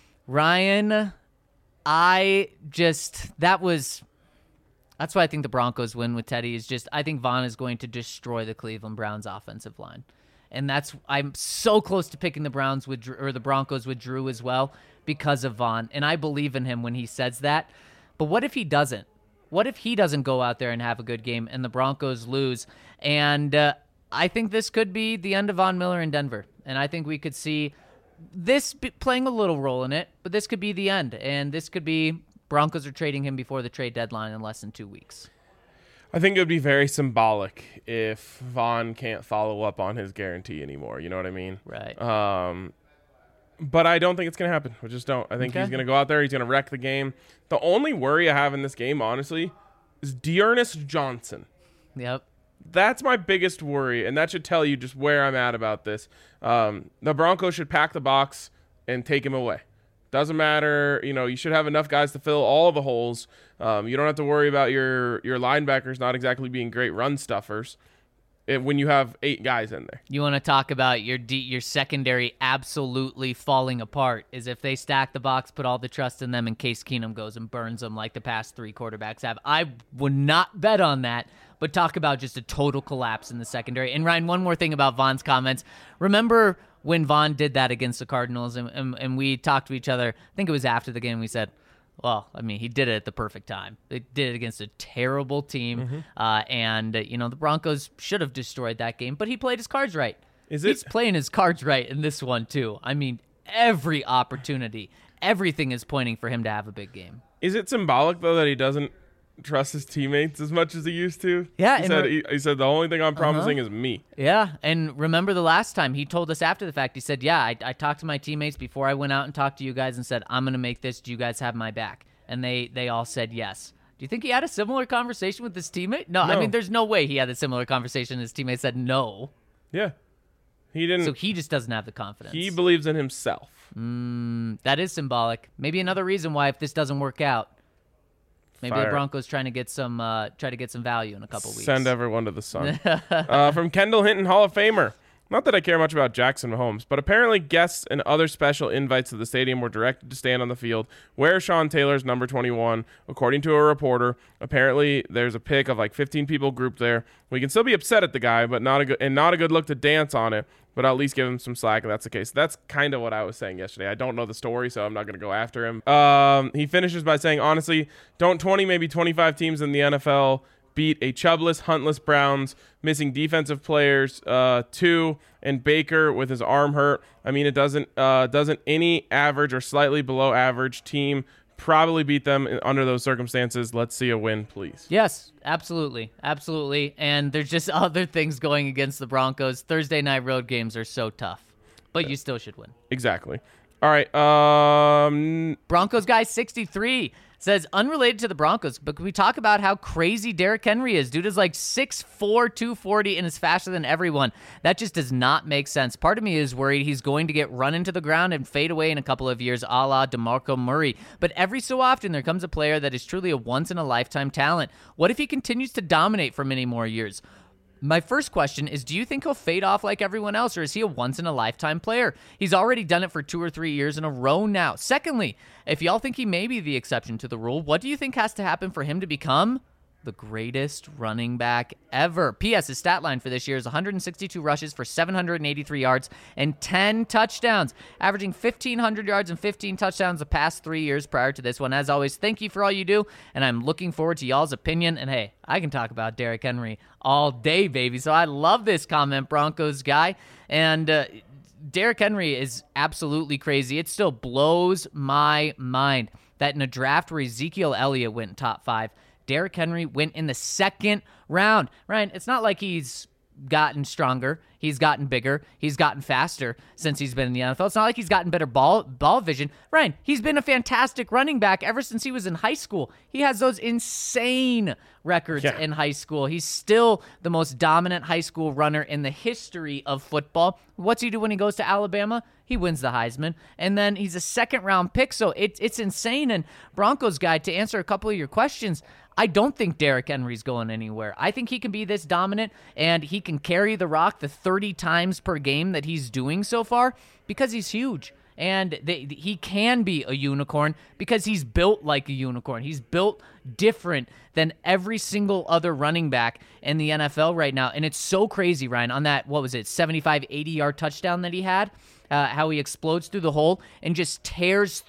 Ryan, that's why I think the Broncos win with Teddy is just, I think Von is going to destroy the Cleveland Browns offensive line. And I'm so close to picking the Broncos with Drew as well because of Von. And I believe in him when he says that. But what if he doesn't? What if he doesn't go out there and have a good game and the Broncos lose? And I think this could be the end of Von Miller in Denver. And I think we could see this playing a little role in it, but this could be the end. And this could be Broncos are trading him before the trade deadline in less than 2 weeks. I think it would be very symbolic if Von can't follow up on his guarantee anymore. You know what I mean? Right. But I don't think it's going to happen. I just don't. I think he's going to go out there. He's going to wreck the game. The only worry I have in this game, honestly, is Dearness Johnson. Yep. That's my biggest worry, and that should tell you just where I'm at about this. The Broncos should pack the box and take him away. Doesn't matter. You should have enough guys to fill all the holes. You don't have to worry about your linebackers not exactly being great run stuffers when you have 8 guys in there. You want to talk about your secondary absolutely falling apart is if they stack the box, put all the trust in them, and Case Keenum goes and burns them like the past 3 quarterbacks have. I would not bet on that, but talk about just a total collapse in the secondary. And Ryan, one more thing about Von's comments. Remember when Von did that against the Cardinals and we talked to each other, I think it was after the game, we said, well, I mean, he did it at the perfect time. They did it against a terrible team, and the Broncos should have destroyed that game, but he played his cards right. He's playing his cards right in this one, too. I mean, every opportunity everything is pointing for him to have a big game. Is it symbolic, though, that he doesn't trust his teammates as much as he used to? Yeah. He said, the only thing I'm promising is me. Yeah, and remember the last time he told us after the fact, he said, yeah, I talked to my teammates before I went out and talked to you guys and said, I'm going to make this. Do you guys have my back? And they all said yes. Do you think he had a similar conversation with his teammate? No, I mean, there's no way he had a similar conversation. His teammate said no. Yeah. He didn't. So he just doesn't have the confidence. He believes in himself. That is symbolic. Maybe another reason why, if this doesn't work out, maybe the Broncos try to get some value in a couple weeks. Send everyone to the sun. From Kendall Hinton, Hall of Famer. Not that I care much about Jackson Mahomes, but apparently guests and other special invites to the stadium were directed to stand on the field, wear Sean Taylor's number 21. According to a reporter, apparently there's a pic of like 15 people grouped there. We can still be upset at the guy, but not a good look to dance on it. But I'll at least give him some slack if that's the case. That's kind of what I was saying yesterday. I don't know the story, so I'm not going to go after him. He finishes by saying, honestly, don't 20, maybe 25 teams in the NFL beat a Chubless, Huntless Browns, missing defensive players, 2, and Baker with his arm hurt. I mean, it doesn't any average or slightly below average team probably beat them under those circumstances. Let's see a win, please. Yes, absolutely. And there's just other things going against the Broncos. Thursday night road games are so tough, but you still should win. Exactly. All right. Broncos guy 63 says, unrelated to the Broncos, but can we talk about how crazy Derrick Henry is? Dude is like 6'4", 240, and is faster than everyone. That just does not make sense. Part of me is worried he's going to get run into the ground and fade away in a couple of years, a la DeMarco Murray. But every so often, there comes a player that is truly a once-in-a-lifetime talent. What if he continues to dominate for many more years? My first question is, do you think he'll fade off like everyone else, or is he a once-in-a-lifetime player? He's already done it for 2 or 3 years in a row now. Secondly, if y'all think he may be the exception to the rule, what do you think has to happen for him to become the greatest running back ever? P.S. His stat line for this year is 162 rushes for 783 yards and 10 touchdowns, averaging 1,500 yards and 15 touchdowns the past 3 years prior to this one. As always, thank you for all you do, and I'm looking forward to y'all's opinion. And hey, I can talk about Derrick Henry all day, baby. So I love this comment, Broncos guy. And Derrick Henry is absolutely crazy. It still blows my mind that in a draft where Ezekiel Elliott went top 5, Derrick Henry went in the second round. Ryan, it's not like he's gotten stronger. He's gotten bigger. He's gotten faster since he's been in the NFL. It's not like he's gotten better ball vision. Ryan, he's been a fantastic running back ever since he was in high school. He has those insane records in high school. He's still the most dominant high school runner in the history of football. What's he do when he goes to Alabama? He wins the Heisman, and then he's a second-round pick, so it's insane. And Broncos guy, to answer a couple of your questions, I don't think Derrick Henry's going anywhere. I think he can be this dominant, and he can carry the rock the 30 times per game that he's doing so far because he's huge. And he can be a unicorn because he's built like a unicorn. He's built different than every single other running back in the NFL right now. And it's so crazy, Ryan, on that, 75, 80-yard touchdown that he had, how he explodes through the hole and just tears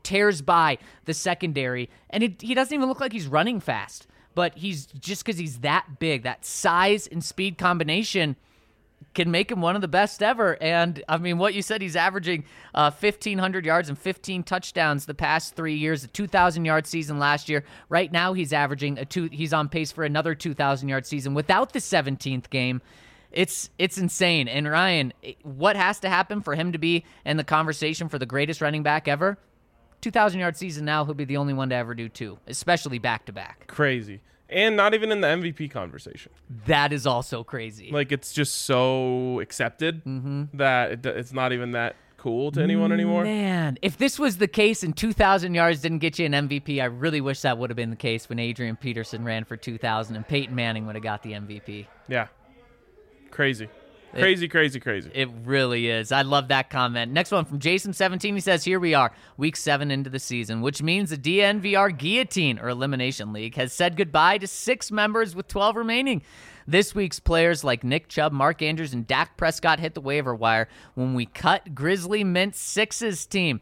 by the secondary. And he doesn't even look like he's running fast. But he's just because he's that big, that size and speed combination can make him one of the best ever. And I mean, what you said, he's averaging 1,500 yards and 15 touchdowns the past 3 years, a 2,000-yard season last year. Right now, he's averaging he's on pace for another 2,000-yard season without the 17th game. It's insane. And Ryan, what has to happen for him to be in the conversation for the greatest running back ever? 2,000-yard season now, he'll be the only one to ever do 2, especially back-to-back. Crazy. And not even in the MVP conversation. That is also crazy. Like, it's just so accepted that it's not even that cool to anyone anymore. Man, if this was the case and 2,000 yards didn't get you an MVP, I really wish that would have been the case when Adrian Peterson ran for 2,000 and Peyton Manning would have got the MVP. Yeah. Crazy. Crazy. It really is. I love that comment. Next one from Jason17. He says, here we are, week 7 into the season, which means the DNVR Guillotine, or Elimination League, has said goodbye to 6 members with 12 remaining. This week's players like Nick Chubb, Mark Andrews, and Dak Prescott hit the waiver wire when we cut Grizzly Mint Six's team.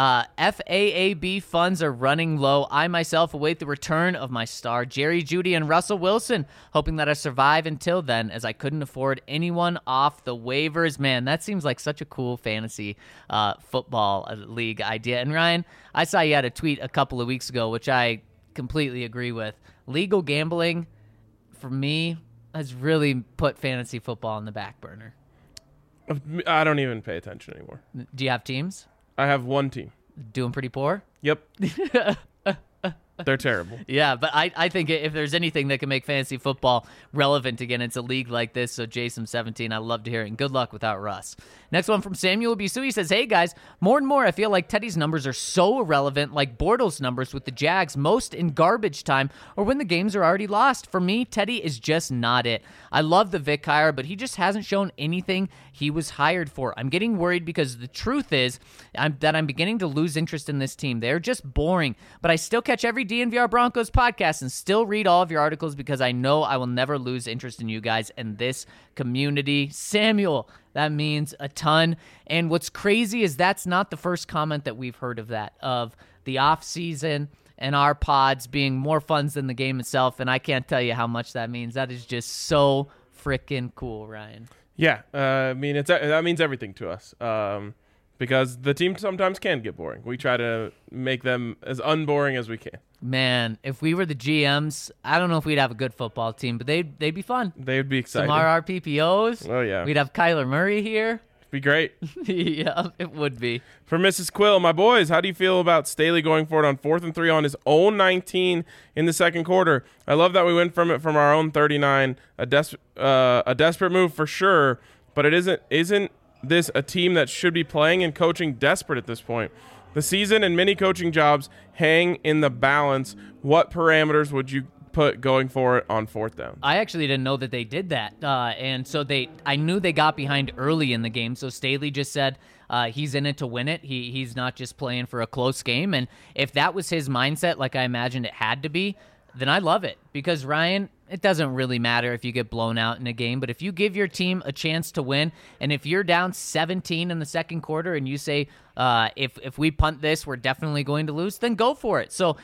FAAB funds are running low. I myself await the return of my star, Jerry Jeudy and Russell Wilson, hoping that I survive until then, as I couldn't afford anyone off the waivers. Man, that seems like such a cool fantasy football league idea. And Ryan, I saw you had a tweet a couple of weeks ago, which I completely agree with. Legal gambling, for me, has really put fantasy football on the back burner. I don't even pay attention anymore. Do you have teams? I have one team. Doing pretty poor? Yep. They're terrible. Yeah, but I think if there's anything that can make fantasy football relevant again, it's a league like this. So Jason17, I love to hear it. And good luck without Russ. Next one from Samuel Bisui says, hey guys, more and more I feel like Teddy's numbers are so irrelevant, like Bortles' numbers with the Jags, most in garbage time or when the games are already lost. For me, Teddy is just not it. I love the Vic hire, but he just hasn't shown anything he was hired for. I'm getting worried because the truth is that I'm beginning to lose interest in this team. They're just boring, but I still catch every DNVR Broncos podcast and still read all of your articles because I know I will never lose interest in you guys and this community. Samuel, that means a ton. And what's crazy is that's not the first comment that we've heard of that, of the off season and our pods being more fun than the game itself. And I can't tell you how much that means. That is just so freaking cool, Ryan. Yeah, I mean, that means everything to us because the team sometimes can get boring. We try to make them as unboring as we can. Man, if we were the GMs, I don't know if we'd have a good football team, but they'd be fun. They'd be exciting. Some RRPPOs. Oh, yeah. We'd have Kyler Murray here. It'd be great. Yeah, it would be. For Mrs. Quill, my boys, how do you feel about Staley going for it on 4th and 3 on his own 19 in the second quarter? I love that we went from our own 39. A desperate move for sure, but it isn't this a team that should be playing and coaching desperate at this point? The season and many coaching jobs hang in the balance. What parameters would you put going for it on 4th down? I actually didn't know that they did that. And so I knew they got behind early in the game. So Staley just said he's in it to win it. He's not just playing for a close game. And if that was his mindset, like I imagined it had to be, then I love it. Because, Ryan, it doesn't really matter if you get blown out in a game, but if you give your team a chance to win, and if you're down 17 in the second quarter and you say, if we punt this, we're definitely going to lose, then go for it. So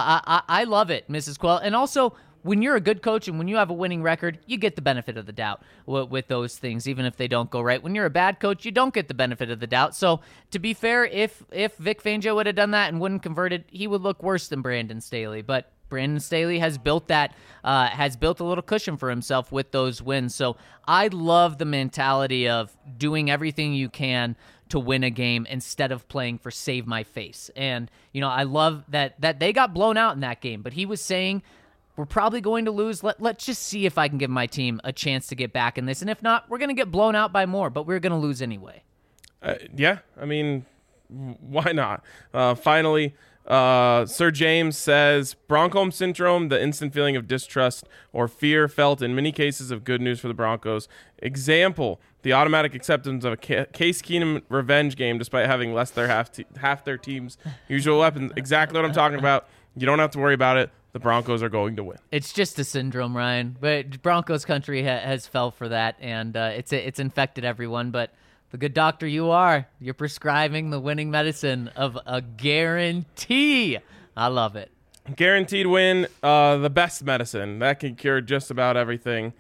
I love it, Mrs. Quell. And also, when you're a good coach and when you have a winning record, you get the benefit of the doubt with those things, even if they don't go right. When you're a bad coach, you don't get the benefit of the doubt. So to be fair, if Vic Fangio would have done that and wouldn't convert it, he would look worse than Brandon Staley. But Brandon Staley has built a little cushion for himself with those wins. So I love the mentality of doing everything you can to win a game instead of playing for save my face. And, I love that they got blown out in that game, but he was saying, we're probably going to lose. Let's just see if I can give my team a chance to get back in this. And if not, we're going to get blown out by more, but we're going to lose anyway. Yeah, I mean, why not? Finally, Sir James says, Broncos syndrome, the instant feeling of distrust or fear felt in many cases of good news for the Broncos. Example, the automatic acceptance of a Case Keenum revenge game despite having less than half their team's usual weapons. Exactly what I'm talking about. You don't have to worry about it. The Broncos are going to win. It's just a syndrome, Ryan. But Broncos country has fell for that, and it's infected everyone. But the good doctor you are, you're prescribing the winning medicine of a guarantee. I love it. Guaranteed win, the best medicine. That can cure just about everything.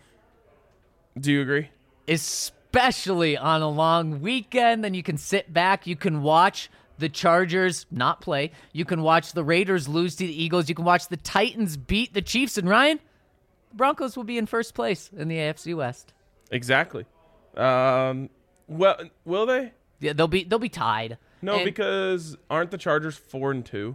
Do you agree? Especially on a long weekend, then you can sit back, you can watch the Chargers not play. You can watch the Raiders lose to the Eagles. You can watch the Titans beat the Chiefs. And Ryan, the Broncos will be in first place in the AFC West. Exactly. Well, will they? Yeah, they'll be tied. No, because aren't the Chargers 4-2?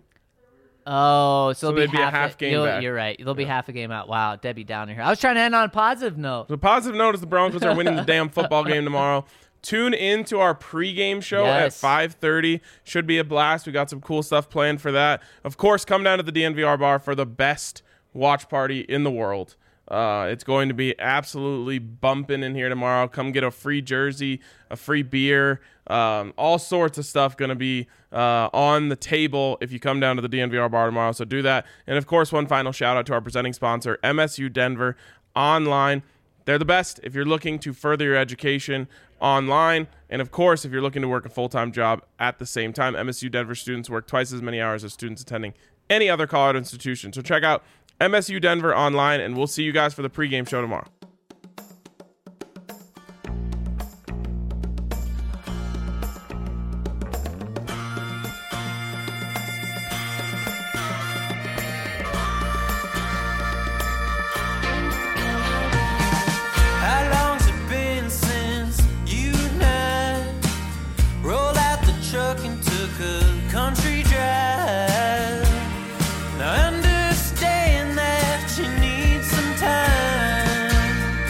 Oh, so they'd be a half game back. You're right. They'll be half a game out. Wow, Debbie Downer here. I was trying to end on a positive note. The positive note is the Broncos are winning the damn football game tomorrow. Tune in to our pregame show at 5:30. Should be a blast. We got some cool stuff planned for that. Of course, come down to the DNVR bar for the best watch party in the world. It's going to be absolutely bumping in here tomorrow. Come get a free jersey, a free beer, all sorts of stuff going to be on the table if you come down to the DNVR bar tomorrow. So do that. And, of course, one final shout-out to our presenting sponsor, MSU Denver Online. They're the best if you're looking to further your education online. And of course, if you're looking to work a full-time job at the same time, MSU Denver students work twice as many hours as students attending any other Colorado institution. So check out MSU Denver online, and we'll see you guys for the pregame show tomorrow. How long's it been since you and I rolled out the truck and took a country drive? Now I understand that you need some time.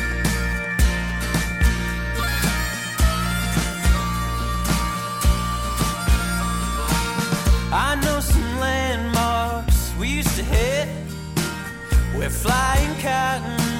I know some landmarks we used to hit where flying cotton